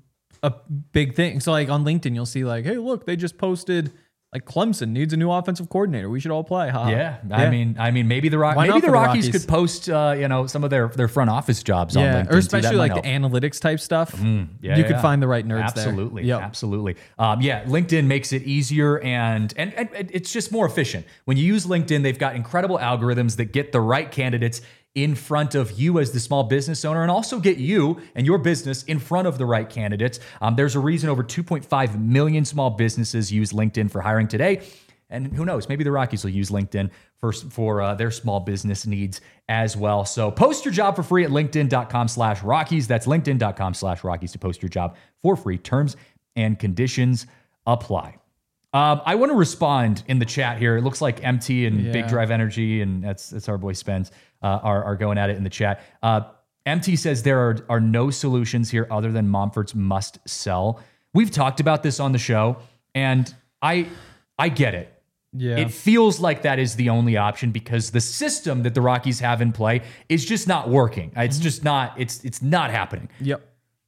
a big thing. So like on LinkedIn, you'll see like, hey, look, they just posted like Clemson needs a new offensive coordinator. We should all play. Ha. Yeah, I mean, I mean, maybe the Rock, Why maybe not the for the Rockies, Rockies? could post, uh, you know, some of their their front office jobs on yeah, LinkedIn. or too. especially That like might the help. analytics type stuff. Yeah, you yeah. could find the right nerds absolutely, there. Yep. absolutely. Um, yeah, LinkedIn makes it easier, and, and and it's just more efficient when you use LinkedIn. They've got incredible algorithms that get the right candidates in front of you as the small business owner, and also get you and your business in front of the right candidates. Um, there's a reason over two point five million small businesses use LinkedIn for hiring today. And who knows, maybe the Rockies will use LinkedIn for, for uh, their small business needs as well. So post your job for free at linkedin.com slash Rockies. That's linkedin.com slash Rockies to post your job for free. Terms and conditions apply. Um, I want to respond in the chat here. It looks like M T and Yeah. Big Drive Energy, and that's that's our boy Spence, uh, are, are going at it in the chat. Uh, M T says there are, are no solutions here other than Momfort's must sell. We've talked about this on the show, and I I get it. Yeah. It feels like that is the only option because the system that the Rockies have in play is just not working. It's mm-hmm. just not, it's it's not happening. Yep.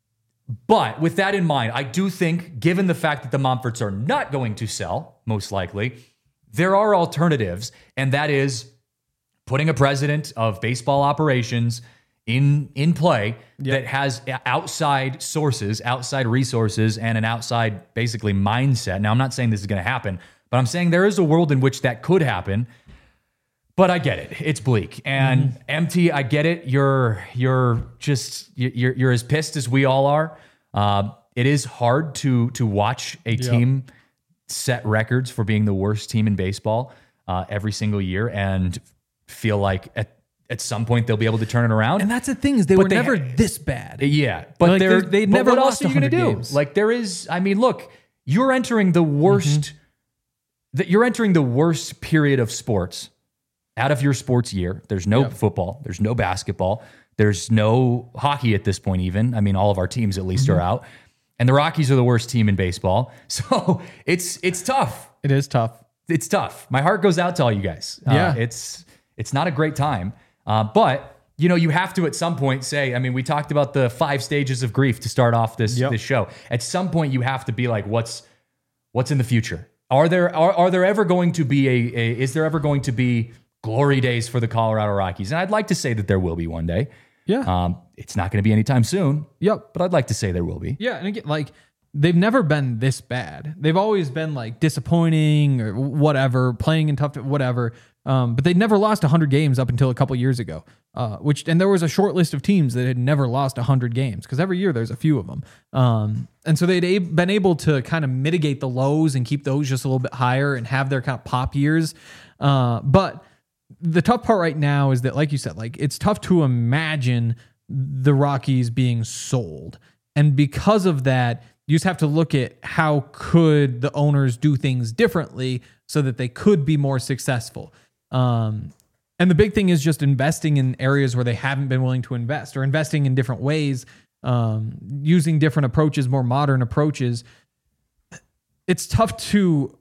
But with that in mind, I do think, given the fact that the Monforts are not going to sell, most likely, there are alternatives, and that is putting a president of baseball operations in in play yep. that has outside sources, outside resources, and an outside, basically, mindset. Now, I'm not saying this is going to happen, but I'm saying there is a world in which that could happen. But I get it. It's bleak. And mm-hmm. M T, I get it. You're you're just you're you're as pissed as we all are. Uh, it is hard to to watch a yep. team set records for being the worst team in baseball uh, every single year and feel like at at some point they'll be able to turn it around. And that's the thing is they but were they never ha- this bad. Yeah, but like they're they but never what lost else are you going to do? Games. Like there is, I mean, look, you're entering the worst. Mm-hmm. That you're entering the worst period of sports out of your sports year. There's no yep. football. There's no basketball. There's no hockey at this point. Even I mean, all of our teams at least mm-hmm. are out. And the Rockies are the worst team in baseball. So it's it's tough. It is tough. It's tough. My heart goes out to all you guys. Yeah. Uh, it's it's not a great time. Uh, but, you know, you have to at some point say, I mean, we talked about the five stages of grief to start off this, yep. this show. At some point, you have to be like, what's what's in the future? Are there are, are there ever going to be a, a is there ever going to be glory days for the Colorado Rockies? And I'd like to say that there will be one day. Yeah. Um, it's not going to be anytime soon. Yep. But I'd like to say there will be. Yeah. And again, like they've never been this bad. They've always been like disappointing or whatever, playing in tough, whatever. Um, but they never lost one hundred games up until a couple years ago, uh, which, and there was a short list of teams that had never lost one hundred games because every year there's a few of them. Um, and so they'd a- been able to kind of mitigate the lows and keep those just a little bit higher and have their kind of pop years. Uh, but the tough part right now is that, like you said, like it's tough to imagine the Rockies being sold. And because of that, you just have to look at how could the owners do things differently so that they could be more successful. Um, and the big thing is just investing in areas where they haven't been willing to invest or investing in different ways, um, using different approaches, more modern approaches. It's tough to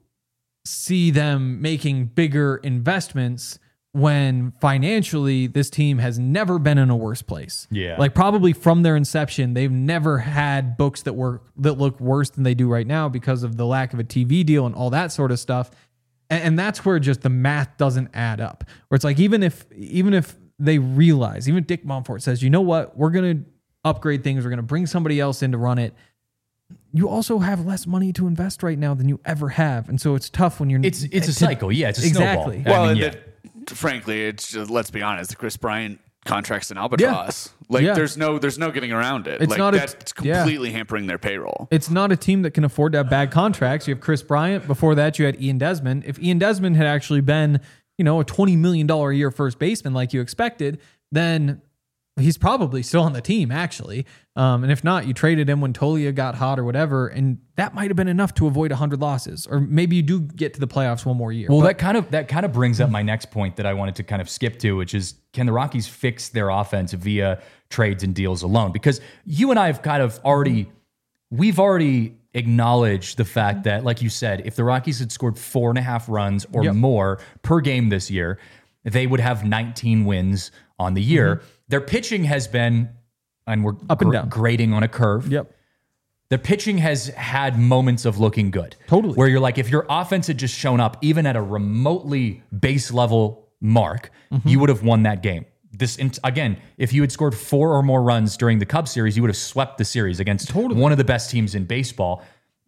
see them making bigger investments when financially this team has never been in a worse place. Yeah. Like probably from their inception, they've never had books that were that look worse than they do right now because of the lack of a T V deal and all that sort of stuff. And, and that's where just the math doesn't add up. Where it's like even if even if they realize, even Dick Monfort says, you know what, we're gonna upgrade things, we're gonna bring somebody else in to run it. You also have less money to invest right now than you ever have, and so it's tough when you're. It's it's a cycle, yeah. It's a exactly. snowball. Well, I mean, yeah. the, frankly, it's just, let's be honest, the Chris Bryant contract's an albatross. Yeah. Like yeah. there's no there's no getting around it. It's like not that's a, completely yeah. hampering their payroll. It's not a team that can afford to have bad contracts. You have Chris Bryant. Before that, you had Ian Desmond. If Ian Desmond had actually been, you know, a twenty million dollars a year first baseman like you expected, then he's probably still on the team, actually. Um, and if not, you traded him when Tolia got hot or whatever, and that might have been enough to avoid one hundred losses. Or maybe you do get to the playoffs one more year. Well, but, that kind of that kind of brings up my next point that I wanted to kind of skip to, which is, can the Rockies fix their offense via trades and deals alone? Because you and I have kind of already, we've already acknowledged the fact that, like you said, if the Rockies had scored four and a half runs or yep. more per game this year, they would have nineteen wins on the year. Mm-hmm. Their pitching has been, and we're up and gr- down. grading on a curve. Yep. The pitching has had moments of looking good. Totally. Where you're like, if your offense had just shown up, even at a remotely base level mark, mm-hmm. you would have won that game. This again, if you had scored four or more runs during the Cubs series, you would have swept the series against totally. one of the best teams in baseball.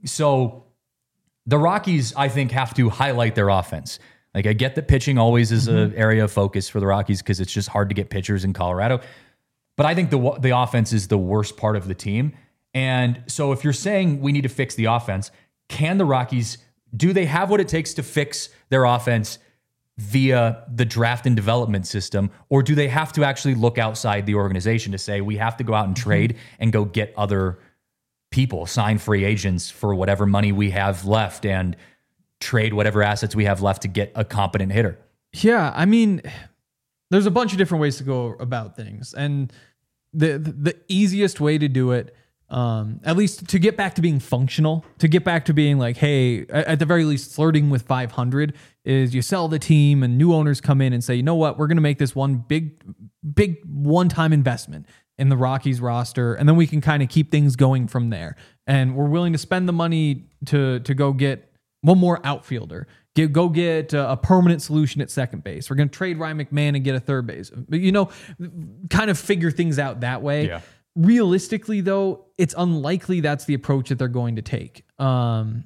So the Rockies, I think, have to highlight their offense. Like, I get that pitching always is mm-hmm. an area of focus for the Rockies because it's just hard to get pitchers in Colorado. But I think the the offense is the worst part of the team. And so if you're saying we need to fix the offense, can the Rockies, do they have what it takes to fix their offense via the draft and development system? Or do they have to actually look outside the organization to say we have to go out and trade mm-hmm. and go get other people, sign free agents for whatever money we have left and trade whatever assets we have left to get a competent hitter? Yeah, I mean, there's a bunch of different ways to go about things. And the the easiest way to do it Um, at least to get back to being functional, to get back to being like, hey, at, at the very least, flirting with five hundred is you sell the team and new owners come in and say, you know what, we're going to make this one big, big one-time investment in the Rockies roster, and then we can kind of keep things going from there. And we're willing to spend the money to to go get one more outfielder. Get, go get a, a permanent solution at second base. We're going to trade Ryan McMahon and get a third base. But, you know, kind of figure things out that way. Yeah. Realistically, though, it's unlikely that's the approach that they're going to take. Um,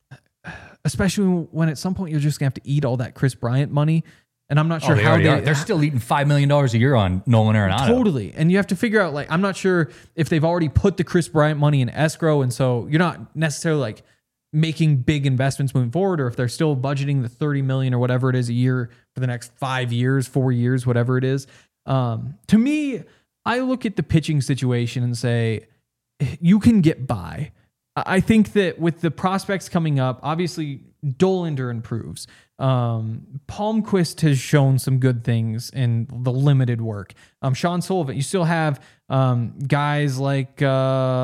especially when at some point you're just going to have to eat all that Chris Bryant money. And I'm not sure oh, they how they are. They're still eating five million dollars a year on Nolan Arenado. Totally. And you have to figure out, like, I'm not sure if they've already put the Chris Bryant money in escrow. And so you're not necessarily like making big investments moving forward, or if they're still budgeting the thirty million or whatever it is a year for the next five years, four years, whatever it is. Um, to me, I look at the pitching situation and say, you can get by. I think that with the prospects coming up, obviously Dollander improves. Um, Palmquist has shown some good things in the limited work. Um, Sean Sullivan, you still have um, guys like uh,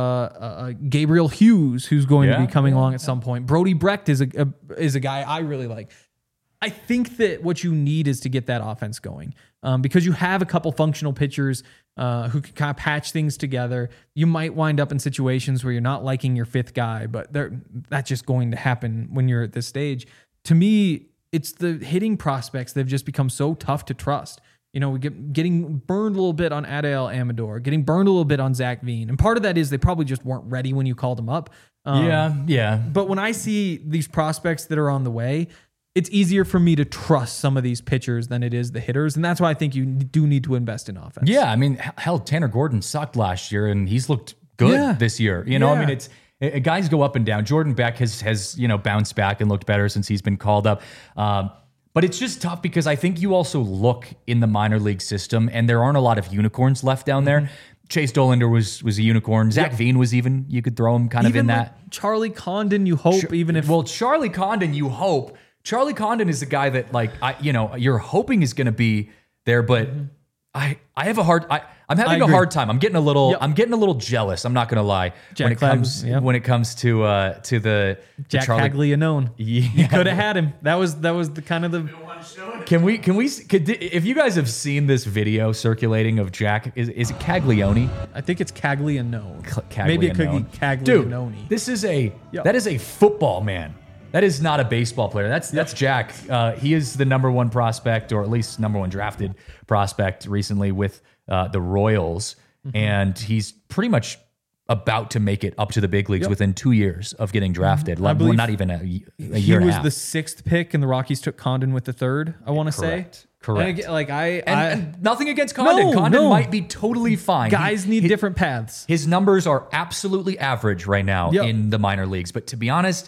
uh, Gabriel Hughes, who's going Yeah, to be coming yeah, along at some point. Brody Brecht is a, a is a guy I really like. I think that what you need is to get that offense going, um, because you have a couple functional pitchers uh, who can kind of patch things together. You might wind up in situations where you're not liking your fifth guy, but that's just going to happen when you're at this stage. To me, it's the hitting prospects that have just become so tough to trust. You know, we get getting burned a little bit on Adael Amador, getting burned a little bit on Zach Veen. And part of that is they probably just weren't ready when you called them up. Um, yeah, yeah. But when I see these prospects that are on the way, it's easier for me to trust some of these pitchers than it is the hitters. And that's why I think you do need to invest in offense. Yeah, I mean, hell, Tanner Gordon sucked last year, and he's looked good Yeah. this year. You know, I Yeah. mean, it's it, guys go up and down. Jordan Beck has has you know bounced back and looked better since he's been called up. Um, but it's just tough because I think you also look in the minor league system, and there aren't a lot of unicorns left down Mm-hmm. there. Chase Dollander was was a unicorn. Zach Yep. Veen was even, you could throw him kind Even of in like that. Charlie Condon, you hope, even if Well, Charlie Condon, you hope. Charlie Condon is the guy that, like, I, you know, you're hoping is going to be there, but I, I have a hard, I, I'm having I a agree. hard time. I'm getting a little, Yep. I'm getting a little jealous. I'm not going to lie. Jack when it Clag- comes, yep. when it comes to, uh, to the the Jack Charlie. Caglianone. Yeah. You could have had him. That was that was the kind of the Can we, can we, could, if you guys have seen this video circulating of Jack, is, is it Caglione? I think it's Caglianone. Caglianone. Maybe it could be Caglianone. Dude, this is a Yep. that is a football man. That is not a baseball player. That's that's Jack. Uh, he is the number one prospect, or at least number one drafted prospect recently with uh, the Royals, Mm-hmm. and he's pretty much about to make it up to the big leagues Yep. within two years of getting drafted. Like, well, believe not even a, a year he and a was half. the sixth pick, and the Rockies took Condon with the third. I want to say Correct. Correct. And again, like I, and, I and nothing against Condon. No, Condon no. might be totally fine. guys He- need he- different paths. His numbers are absolutely average right now Yep. in the minor leagues. But to be honest,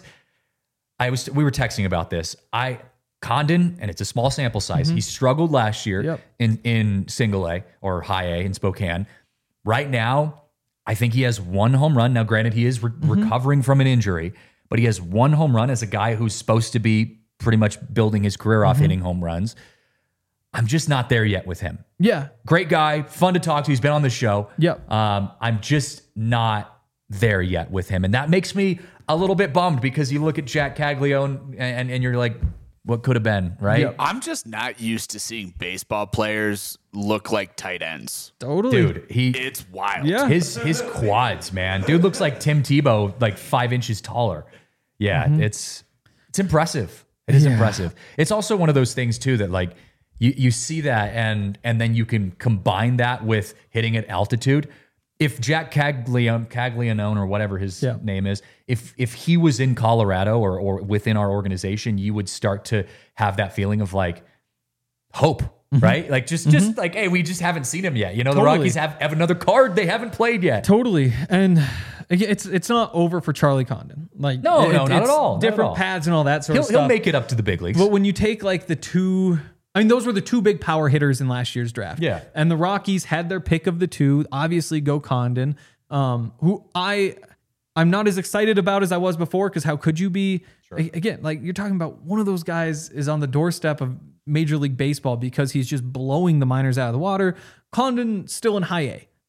I was we were texting about this. I Condon, and it's a small sample size. He struggled last year Yep. in in single A or high A in Spokane. Right now, I think he has one home run. Now, granted, he is re- recovering from an injury, but he has one home run as a guy who's supposed to be pretty much building his career off hitting home runs. I'm just not there yet with him. Yeah, Great guy, fun to talk to. He's been on the show. Yep. Um, I'm just not there yet with him. And that makes me a little bit bummed because you look at Jack Caglione and, and, and you're like, what could have been, right? Yep. I'm just not used to seeing baseball players look like tight ends. totally, Dude, he It's wild. Yeah. his his quads, man. Dude looks like Tim Tebow, like five inches taller. Yeah, it's it's impressive. It is Yeah. impressive. It's also one of those things too that like you you see that and and then you can combine that with hitting at altitude. If Jack Caglione, Caglianone or whatever his Yeah. name is, if if he was in Colorado or or within our organization, you would start to have that feeling of like hope, right? Like just just like, hey, we just haven't seen him yet. You know, the Totally. Rockies have, have another card they haven't played yet. totally. And again, it's it's not over for Charlie Condon. Like No, no, not at it's all, not at Different all. paths and all that sort He'll of stuff. he'll make it up to the big leagues. But when you take like the two, I mean, those were the two big power hitters in last year's draft. Yeah. And the Rockies had their pick of the two. Obviously, go Condon, um, who I, I'm not as excited about as I was before because how could you be? A- Again, like you're talking about one of those guys is on the doorstep of Major League Baseball because he's just blowing the minors out of the water. Condon still in high A.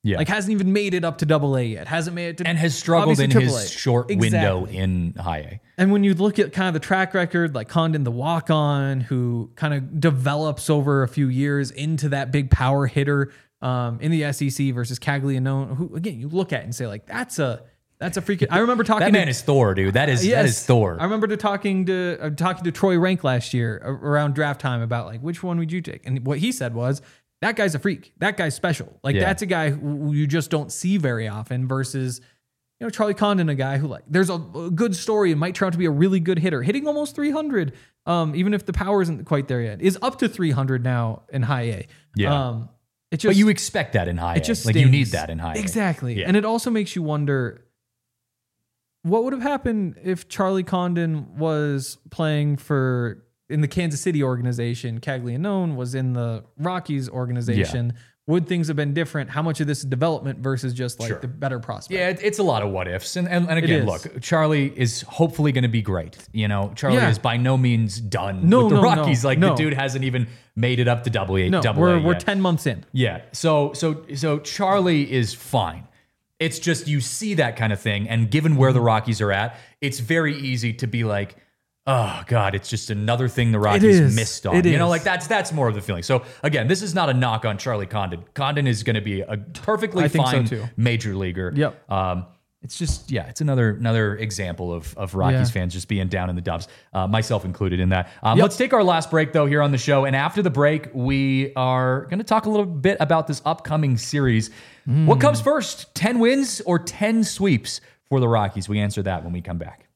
Yeah. Like hasn't even made it up to double A yet. Hasn't made it to and has struggled in triple A. his short Exactly. window in high A. And when you look at kind of the track record, like Condon, the walk-on, who kind of develops over a few years into that big power hitter um, in the S E C versus Caglianone, who again you look at and say like that's a that's a freaking. I remember talking. That man to, is Thor, dude. That is yes, that is Thor. I remember to talking to uh, talking to Troy Rank last year uh, around draft time about like which one would you take, and what he said was that guy's a freak. That guy's special. Like Yeah. that's a guy who you just don't see very often. Versus, you know, Charlie Condon, a guy who like there's a, a good story and might turn out to be a really good hitter, hitting almost three hundred. Um, even if the power isn't quite there yet, is up to three hundred now in high A. Yeah. Um, it just But you expect that in high it just A. Like you stings. need that in high A. Exactly. Yeah. And it also makes you wonder what would have happened if Charlie Condon was playing for in the Kansas City organization, Caglianone was in the Rockies organization. Would things have been different? How much of this is development versus just like Sure. the better prospect? Yeah, it- it's a lot of what ifs. And and, and again, is. look, Charlie is hopefully going to be great. You know, Charlie Yeah. is by no means done No, with the no, no, Rockies. Like no. the dude hasn't even made it up to double A. No, double we're A we're yet. ten months in. Yeah. So so so Charlie is fine. It's just you see that kind of thing, and given where the Mm-hmm. Rockies are at, it's very easy to be like, oh God, it's just another thing the Rockies is. missed on. It you know, is. like that's that's more of the feeling. So again, this is not a knock on Charlie Condon. Condon is going to be a perfectly I think so, fine too. major leaguer. Yep. Um, it's just yeah, it's another another example of of Rockies Yeah. fans just being down in the dumps, uh, myself included in that. Um, Yep. Let's take our last break though here on the show, and after the break, we are going to talk a little bit about this upcoming series. Hmm. What comes first, ten wins or ten sweeps for the Rockies? We answer that when we come back.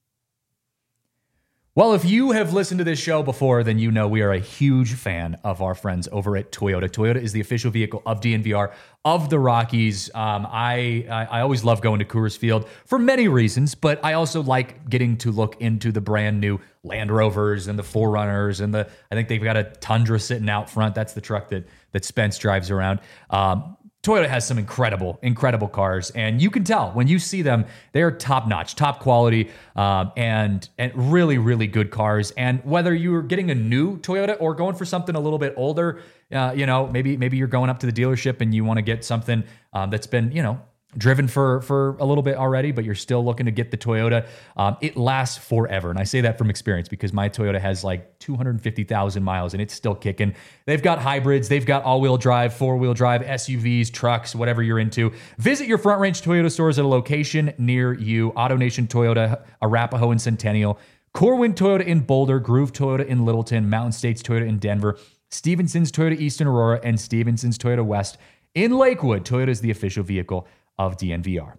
Well, if you have listened to this show before, then you know we are a huge fan of our friends over at Toyota. Toyota is the official vehicle of D N V R, of the Rockies. Um, I, I I always love going to Coors Field for many reasons, but I also like getting to look into the brand new Land Rovers and the four runners, and the I think they've got a Tundra sitting out front. That's the truck that that Spence drives around. Um, Toyota has some incredible, incredible cars, and you can tell when you see them, they're top notch, top quality, um, and and really, really good cars. And whether you're getting a new Toyota or going for something a little bit older, uh, you know, maybe maybe you're going up to the dealership and you want to get something um, that's been, you know, driven for for a little bit already, but you're still looking to get the Toyota. Um, it lasts forever, and I say that from experience because my Toyota has like two hundred fifty thousand miles, and it's still kicking. They've got hybrids, they've got all-wheel drive, four-wheel drive, S U Vs, trucks, whatever you're into. Visit your Front Range Toyota stores at a location near you. AutoNation Toyota, Arapahoe and Centennial, Corwin Toyota in Boulder, Groove Toyota in Littleton, Mountain States Toyota in Denver, Stevenson's Toyota East in Aurora, and Stevenson's Toyota West in Lakewood. Toyota is the official vehicle of D N V R.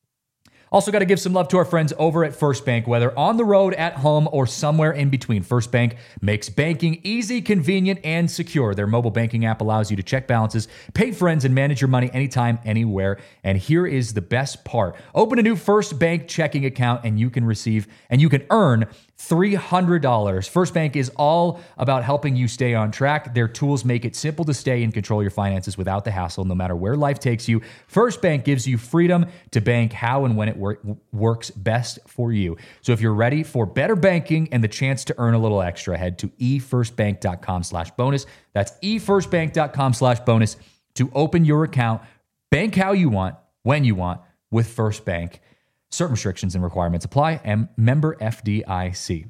Also got to give some love to our friends over at First Bank, whether on the road, at home, or somewhere in between. First Bank makes banking easy, convenient, and secure. Their mobile banking app allows you to check balances, pay friends, and manage your money anytime, anywhere. And here is the best part. Open a new First Bank checking account and you can receive and you can earn three hundred dollars. First Bank is all about helping you stay on track. Their tools make it simple to stay and control your finances without the hassle, no matter where life takes you. First Bank gives you freedom to bank how and when it wor- works best for you. So if you're ready for better banking and the chance to earn a little extra, head to e first bank dot com slash bonus. That's e first bank dot com slash bonus to open your account. Bank how you want, when you want, with First Bank. Certain restrictions and requirements apply, and member F D I C.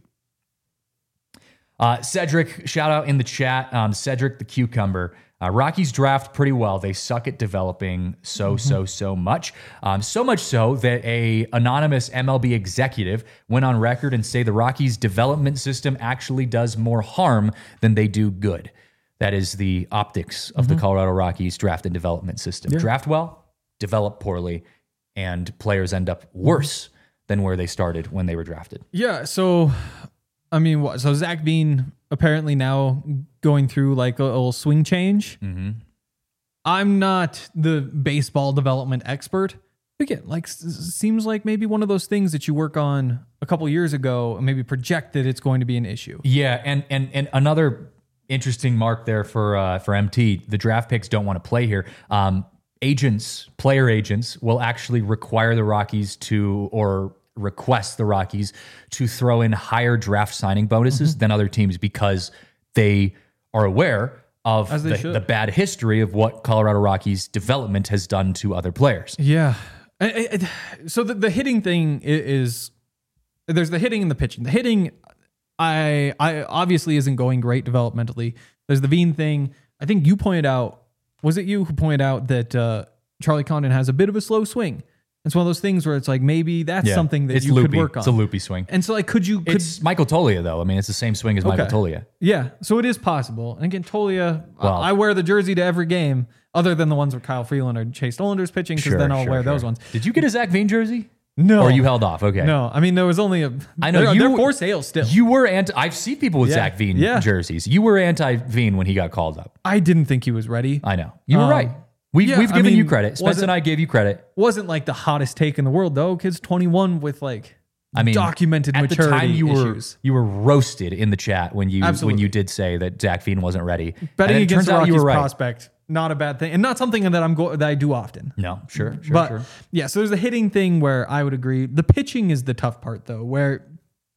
Uh, Cedric, shout out in the chat. Um, Cedric the Cucumber. Uh, Rockies draft pretty well. They suck at developing so, mm-hmm. so, so much. Um, so much so that a anonymous M L B executive went on record and say the Rockies development system actually does more harm than they do good. That is the optics of mm-hmm. the Colorado Rockies draft and development system. Yeah. Draft well, develop poorly, and players end up worse than where they started when they were drafted. Yeah, so, I mean, what? So Zach Bean apparently now going through like a little swing change. Mm-hmm. I'm not the baseball development expert. Again, like s- seems like maybe one of those things that you work on a couple years ago and maybe project that it's going to be an issue. Yeah, and and and another interesting mark there for uh, for M T. The draft picks don't want to play here. Um, Agents, player agents, will actually require the Rockies to, or request the Rockies to throw in higher draft signing bonuses mm-hmm. than other teams because they are aware of the, the bad history of what Colorado Rockies development has done to other players. Yeah. I, I, so the, the hitting thing is, there's the hitting and the pitching. The hitting, I, I obviously isn't going great developmentally. There's the Veen thing. I think you pointed out, was it you who pointed out that uh, Charlie Condon has a bit of a slow swing? It's one of those things where it's like, maybe that's yeah, something that you loopy. could work on. It's a loopy swing. And so like, could you... Could, it's Michael Toglia, though. I mean, it's the same swing as okay. Michael Toglia. Yeah, so it is possible. And again, Toglia, well, I wear the jersey to every game, other than the ones where Kyle Freeland or Chase Nollander's pitching, because sure, then I'll sure, wear sure. those ones. Did you get a Zach Veen jersey? No. Or you held off? Okay. No, I mean, there was only a... I know they're, you they're were, for sale still. You were anti... I've seen people with yeah. Zach Veen yeah. jerseys. You were anti-Veen when he got called up. I didn't think he was ready. I know. You were um, right. We've, yeah, we've given I mean, you credit. Spence and I gave you credit. Wasn't like the hottest take in the world, though. Kid's twenty-one with like I mean, documented at maturity the time you issues. Were, you were roasted in the chat when you Absolutely. when you did say that Zach Veen wasn't ready. Betting against the Rockies you were right. prospect, not a bad thing. And not something that I'm go- that I do often. No, sure, sure, but, sure. Yeah, so there's a hitting thing where I would agree. The pitching is the tough part, though, where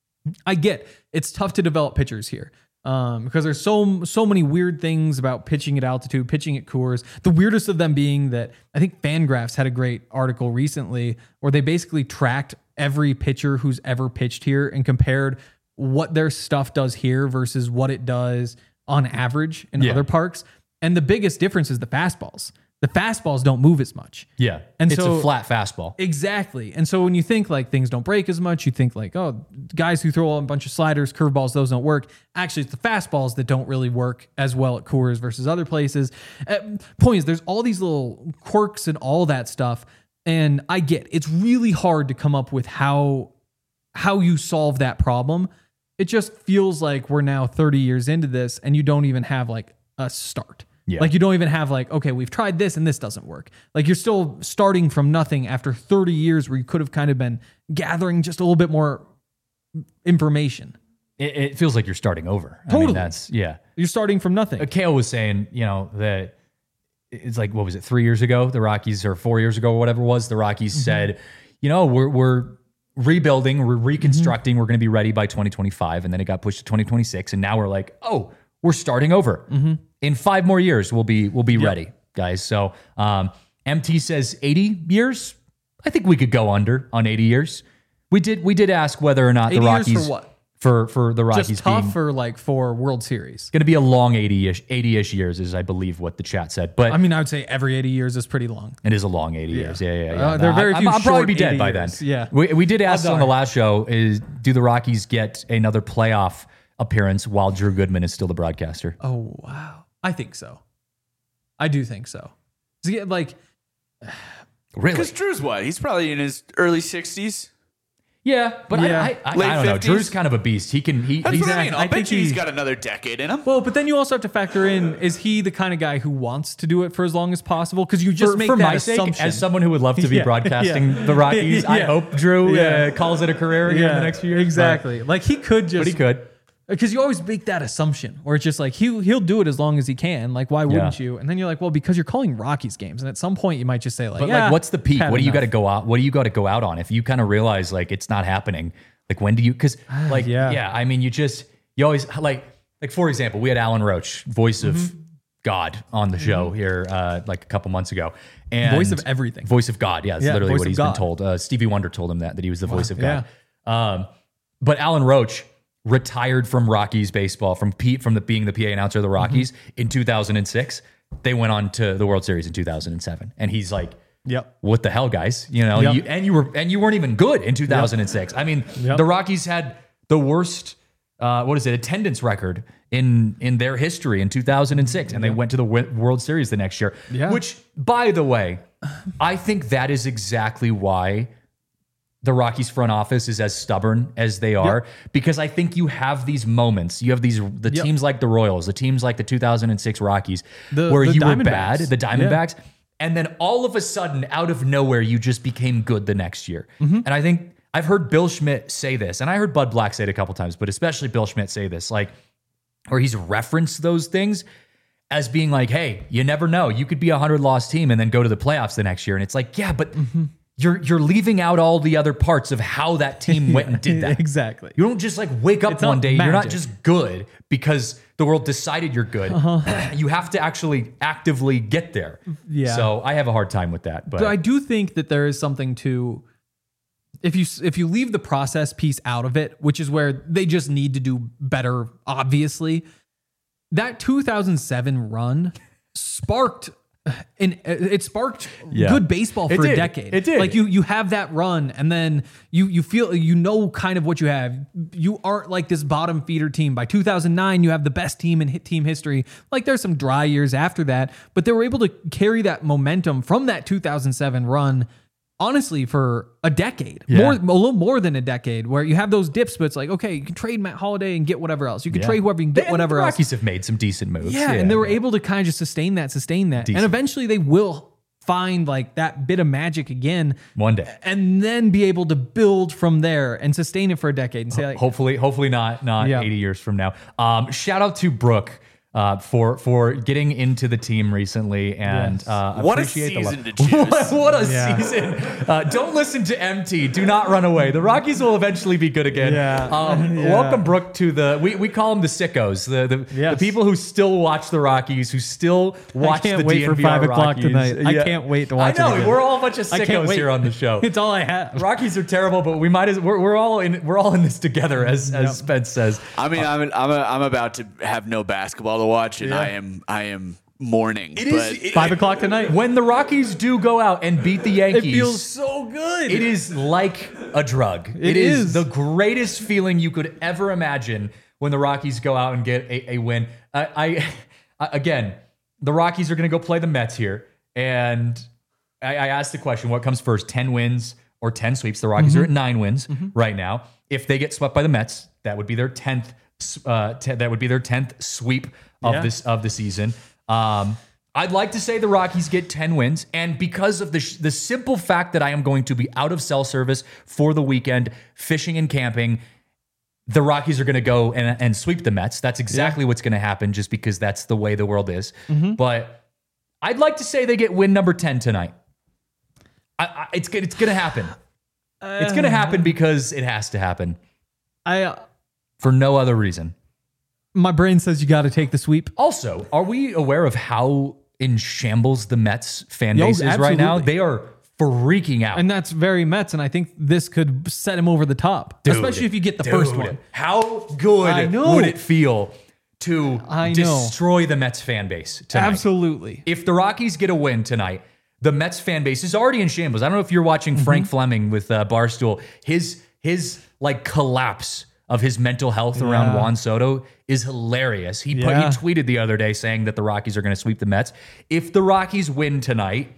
I get it's tough to develop pitchers here. Um, because there's so so many weird things about pitching at altitude, pitching at Coors. The weirdest of them being that I think Fangraphs had a great article recently where they basically tracked every pitcher who's ever pitched here and compared what their stuff does here versus what it does on average in yeah. other parks. And the biggest difference is the fastballs. The fastballs don't move as much. Yeah. And it's so, a flat fastball. Exactly. And so when you think like things don't break as much, you think like, oh, guys who throw a bunch of sliders, curveballs, those don't work. Actually, it's the fastballs that don't really work as well at Coors versus other places. Uh, point is, there's all these little quirks and all that stuff. And I get it's really hard to come up with how how you solve that problem. It just feels like we're now thirty years into this and you don't even have like a start. Yeah. Like you don't even have like, okay, we've tried this and this doesn't work. Like you're still starting from nothing after thirty years where you could have kind of been gathering just a little bit more information. It, it feels like you're starting over. Totally. I mean, that's, yeah. You're starting from nothing. Uh, Kale was saying, you know, that it's like, what was it, three years ago? The Rockies, or four years ago, or whatever it was, the Rockies mm-hmm. said, you know, we're, we're rebuilding, we're reconstructing, mm-hmm. we're going to be ready by twenty twenty-five. And then it got pushed to twenty twenty-six. And now we're like, oh, we're starting over. Mm-hmm. In five more years, we'll be we'll be yep. ready, guys. So um, M T says eighty years. I think we could go under on eighty years. We did we did ask whether or not the Rockies years for what? For for the Rockies just tough being, or like for World Series. Going to be a long eighty-ish eighty-ish years is I believe what the chat said. But I mean, I would say every eighty years is pretty long. It is a long eighty yeah. years. Yeah, yeah, yeah. Uh, there are very few. I'll, I'll probably be dead by years. then. Yeah. We we did ask on the last show is do the Rockies get another playoff appearance while Drew Goodman is still the broadcaster? Oh wow, I think so. I do think so. See, like, really? Because Drew's what? He's probably in his early sixties. Yeah, but yeah. I, I, I, Late I don't know. fifties? Drew's kind of a beast. He can. He, That's he's what I mean. I'll I bet think you he's he- got another decade in him. well, but then you also have to factor in: is he the kind of guy who wants to do it for as long as possible? Because you just for, make for that my assumption. sake, as someone who would love to be Yeah, broadcasting yeah. the Rockies, I Yeah. hope Drew Yeah. uh, calls it a career here in the next few years. Exactly. Like he could just, But, but he could. because you always make that assumption, or it's just like he he'll do it as long as he can. Like why wouldn't Yeah. you? And then you're like, well, because you're calling Rockies games, and at some point you might just say like, But yeah, like, what's the peak? had What do you enough. got to go out? What do you got to go out on? If you kind of realize like it's not happening, like when do you? Because like Yeah. yeah. I mean, you just you always like like for example, we had Alan Roach, voice of Mm-hmm. God, on the show here uh, like a couple months ago, and Voice of everything. voice of God. Yeah, that's Yeah, literally voice what of he's God. been told. Uh, Stevie Wonder told him that that he was the voice of Yeah. God. Um, but Alan Roach retired from Rockies baseball from Pete from the being the P A announcer of the Rockies Mm-hmm. in two thousand six. They went on to the World Series in two thousand seven, and he's like, Yep. what the hell, guys? You know, Yep. you, and you were and you weren't even good in two thousand six. I mean, Yep. the Rockies had the worst uh, what is it attendance record in in their history in two thousand six, and they went to the Wo- World Series the next year. Yeah. Which, by the way, I think that is exactly why the Rockies front office is as stubborn as they are, because I think you have these moments. You have these the Yep. teams like the Royals, the teams like the two thousand six Rockies, The- where the you were Diamondbacks. bad, the Yeah. Diamondbacks, and then all of a sudden, out of nowhere, you just became good the next year. Mm-hmm. And I think I've heard Bill Schmidt say this, and I heard Bud Black say it a couple times, but especially Bill Schmidt say this, like where he's referenced those things as being like, hey, you never know. You could be a hundred loss team and then go to the playoffs the next year. And it's like, yeah, but you're you're leaving out all the other parts of how that team went and did that. Exactly. You don't just like wake up It's one not day. You're not magic. just good because the world decided you're good. Uh-huh. You have to actually actively get there. Yeah. So I have a hard time with that. But, But I do think that there is something to if you if you leave the process piece out of it, which is where they just need to do better, obviously. That two thousand seven run sparked and it sparked Yeah. good baseball It for did. a decade. It did. Like you you have that run and then you you feel you know kind of what you have. You aren't like this bottom feeder team. By two thousand nine, you have the best team in hit team history. Like there's some dry years after that, but they were able to carry that momentum from that two thousand seven run honestly for a decade. Yeah. More a little more than a decade where you have those dips, but it's like, okay, you can trade Matt Holliday and get whatever else. You can Yeah. trade whoever you can get And whatever the else. Rockies have made some decent moves. Yeah, and they were able to kind of just sustain that, sustain that. Decent. And eventually they will find like that bit of magic again One day. and then be able to build from there and sustain it for a decade and say like, Hopefully, hopefully not not Yeah. eighty years from now. Um, shout out to Brooke uh, for for getting into the team recently and Yes. uh, What a appreciate the season love. to choose. what, what a Yeah. season! Uh, don't listen to M T. Do not run away. The Rockies will eventually be good again. Yeah. Um, Yeah. Welcome Brooke to the. We, we call them the sickos. The the, Yes. the people who still watch the Rockies, who still watch can't the wait for D N V R five o'clock Rockies. tonight. I can't wait to watch I it know again. we're all a bunch of I can't sickos wait. here on the show. It's all I have. Rockies are terrible, but we might as we're, we're all in we're all in this together, as as Yep. Spence says. I mean, I'm I'm, a, I'm about to have no basketball to watch, and Yeah. I am I am mourning. It but is it- Five o'clock tonight. when the Rockies do go out and beat the It Yankees. feels so good. It is like a drug. It it is. is. the greatest feeling you could ever imagine when the Rockies go out and get a, a win. I, I, I again, the Rockies are going to go play the Mets here, and I, I asked the question: what comes first, ten wins or ten sweeps? The Rockies Mm-hmm. are at nine wins right now. If they get swept by the Mets, that would be their tenth. Uh, te- that would be their tenth sweep of Yeah. this of the season. Um, I'd like to say the Rockies get ten wins, and because of the sh- the simple fact that I am going to be out of cell service for the weekend, fishing and camping, the Rockies are going to go and, and sweep the Mets. That's exactly what's going to happen, just because that's the way the world is. Mm-hmm. But I'd like to say they get win number ten tonight. I, I, it's go- it's going to happen. it's going to happen because it has to happen I uh, for no other reason. my brain says you got to take the sweep. Also, are we aware of how in shambles the Mets fan Yo, base is right now? absolutely. They are freaking out. And that's very Mets, and I think this could set him over the top, Dude, especially if you get the dude, first one. How good I know. would it feel to I know. destroy the Mets fan base tonight? Absolutely. If the Rockies get a win tonight, the Mets fan base is already in shambles. I don't know if you're watching Mm-hmm. Frank Fleming with uh, Barstool. His his like collapse of his mental health around Yeah. Juan Soto is hilarious. He put, he Yeah. tweeted the other day saying that the Rockies are going to sweep the Mets. If the Rockies win tonight,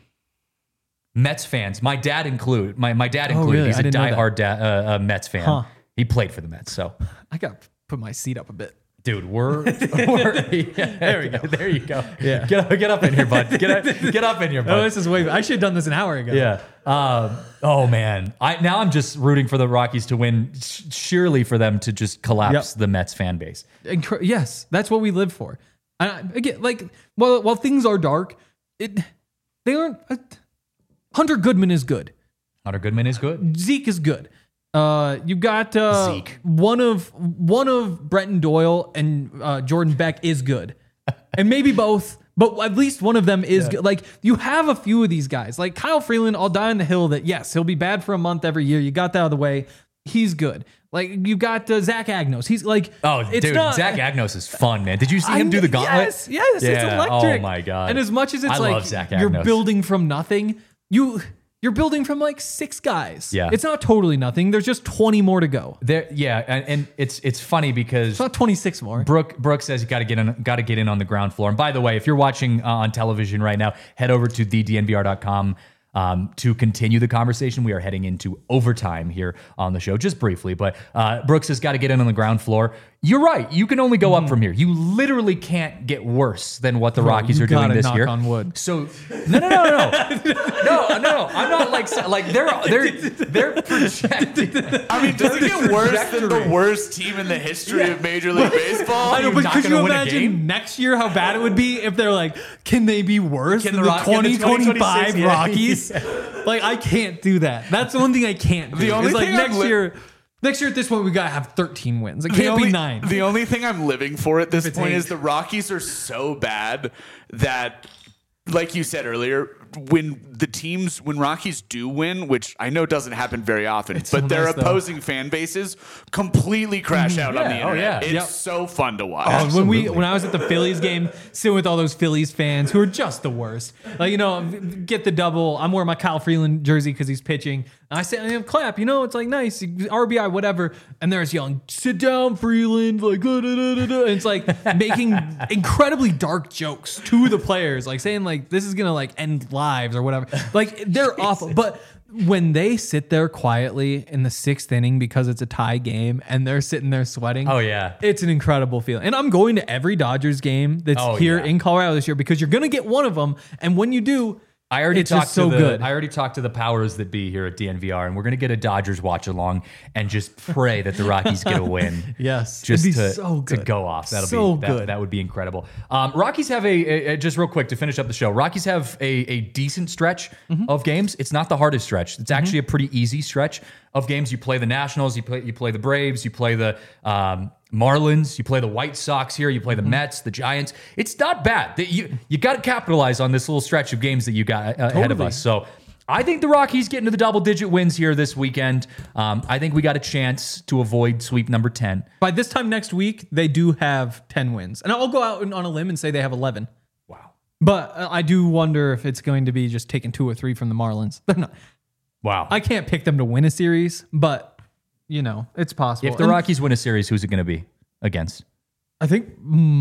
Mets fans, my dad include my my dad included. really? He's I a didn't know that. diehard da- uh, uh, Mets fan. Huh. He played for the Mets, so. I got to put my seat up a bit. Dude, we're, we're yeah, there we go. There you go. Yeah. Get up, get up in here, bud. Get up, get up in here, bud. Oh, this is way. I should have done this an hour ago. Yeah. Um, oh man. I now I'm just rooting for the Rockies to win. sh- Surely for them to just collapse Yep. the Mets fan base. Incre- yes, that's what we live for. And I- again, like, well, while things are dark, it they aren't. Uh, Hunter Goodman is good. Hunter Goodman is good. Zeke is good. Uh, you got uh, Zeke. one of one of Brenton Doyle and uh, Jordan Beck is good, and maybe both, but at least one of them is good. Like you have a few of these guys, like Kyle Freeland. I'll die on the hill that yes, he'll be bad for a month every year. You got that out of the way. He's good. Like you got uh, Zach Agnos. He's like Oh, it's dude, not, Zach Agnos is fun, man. Did you see I him do the know- gauntlet? Yes, yes, it's Yeah. electric. Oh my god. And as much as it's I like love Zach you're Agnos. building from nothing, you you're building from like six guys. Yeah. It's not totally nothing. There's just twenty more to go. There, yeah, and, and it's it's funny because It's not twenty-six more. Brooke Brooke says you got to get in, got to get in on the ground floor. And by the way, if you're watching uh, on television right now, head over to the d n v r dot com um, to continue the conversation. We are heading into overtime here on the show, just briefly. But uh, Brooks has got to get in on the ground floor. You're right. You can only go up from here. You literally can't get worse than what the Bro, Rockies you are doing gotta this knock year. on wood. So no, no, no, no, no, no, no. I'm not like like they're they're they're projecting. I mean, does it get worse than the worst team in the history of Major League Baseball? I know, You're but not could gonna you win a imagine game? next year how bad it would be if they're like, can they be worse Can than the the, Rock- can the twenty twenty-five twenty twenty-six yeah. Rockies? Like, I can't do that. That's the one thing I can't do. The only It's like thing I'm next li- year. Next year at this point, we gotta have thirteen wins. It The can't only, be nine. The only thing I'm living for at this it's point eight. is the Rockies are so bad that, like you said earlier, when the teams, when Rockies do win, which I know doesn't happen very often, It's but so their nice, though. opposing fan bases completely crash out on Yeah, the oh, internet. yeah. It's Yep. so fun to watch. Oh, when we Absolutely. when I was at the Phillies game, sitting with all those Phillies fans who are just the worst. Like, you know, get the double. I'm wearing my Kyle Freeland jersey because he's pitching. And I say, I clap. You know, it's like nice R B I, whatever. And they're just yelling, "Sit down, Freeland!" Like, da, da, da, da, da. And it's like making incredibly dark jokes to the players, like saying like this is gonna like end lives or whatever. Like they're awful, but. When they sit there quietly in the sixth inning because it's a tie game and they're sitting there sweating. Oh, yeah. It's an incredible feeling. And I'm going to every Dodgers game that's Oh, here yeah. in Colorado this year because you're going to get one of them. And when you do, I already it's talked just so to the, good. I already talked to the powers that be here at D N V R, and we're gonna get a Dodgers watch along and just pray that the Rockies get a win. Yes. just It'd be to, so to good. go off. That'll So be that, good. that would be incredible. Um, Rockies have a, a, a- just real quick to finish up the show. Rockies have a, a decent stretch Mm-hmm. of games. It's not the hardest stretch. It's actually a pretty easy stretch of games. You play the Nationals, you play you play the Braves, you play the um, Marlins, you play the White Sox here, you play the Mets, the Giants. It's not bad. The- You you got to capitalize on this little stretch of games that you got uh, ahead of Totally. us. So I think the Rockies get into the double digit wins here this weekend. Um, I think we got a chance to avoid sweep number ten. By this time next week, they do have ten wins. And I'll go out on a limb and say they have eleven. Wow. But uh, I do wonder if it's going to be just taking two or three from the Marlins. They're not. Wow. I can't pick them to win a series, but, you know, it's possible. if the And Rockies win a series, who's it going to be against? I think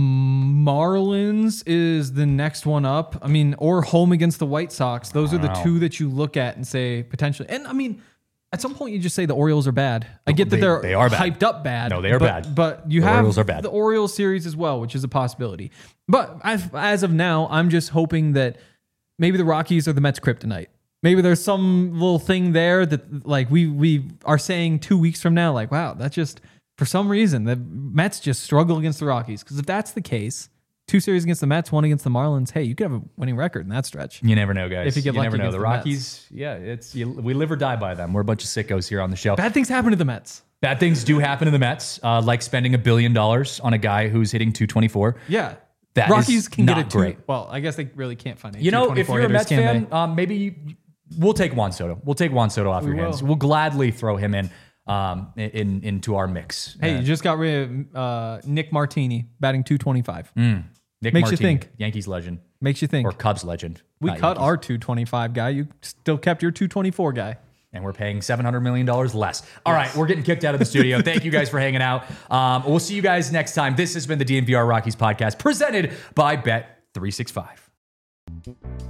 Marlins is the next one up. I mean, or home against the White Sox. Those are the Wow. two that you look at and say potentially. And I mean, at some point you just say the Orioles are bad. I get that They- they're they are bad. hyped up bad. No, they are but, bad. But you The have Orioles are bad. the Orioles series as well, which is a possibility. But as, as of now, I'm just hoping that maybe the Rockies are the Mets kryptonite. Maybe there's some little thing there that like we we are saying two weeks from now, like, wow, that's just for some reason the Mets just struggle against the Rockies. Because if that's the case, two series against the Mets, one against the Marlins, hey, you could have a winning record in that stretch. You never know, guys. If you get lucky never know. against The the Mets. Rockies, yeah, it's you, we live or die by them. We're a bunch of sickos here on the show. Bad things happen to the Mets. Bad things do happen to the Mets, uh, like spending a billion dollars on a guy who's hitting two twenty-four. Yeah. That Rockies is can get not a two. great. Well, I guess they really can't find a You know, if two twenty-four you're a hitters, Mets can fan, they? um, maybe you, we'll take Juan Soto. We'll take Juan Soto off We your will. hands. We'll gladly throw him in um, in into our mix. Hey, Uh, you just got rid of uh, Nick Martini batting two twenty-five. Nick makes you Martini, think. Yankees legend Makes you think. or Cubs legend. We not cut Yankees. our two twenty-five guy. You still kept your two twenty-four guy. and we're paying seven hundred million dollars less. All right, we're getting kicked out of the studio. Thank you guys for hanging out. Um, we'll see you guys next time. This has been the D N V R Rockies podcast presented by Bet three sixty-five.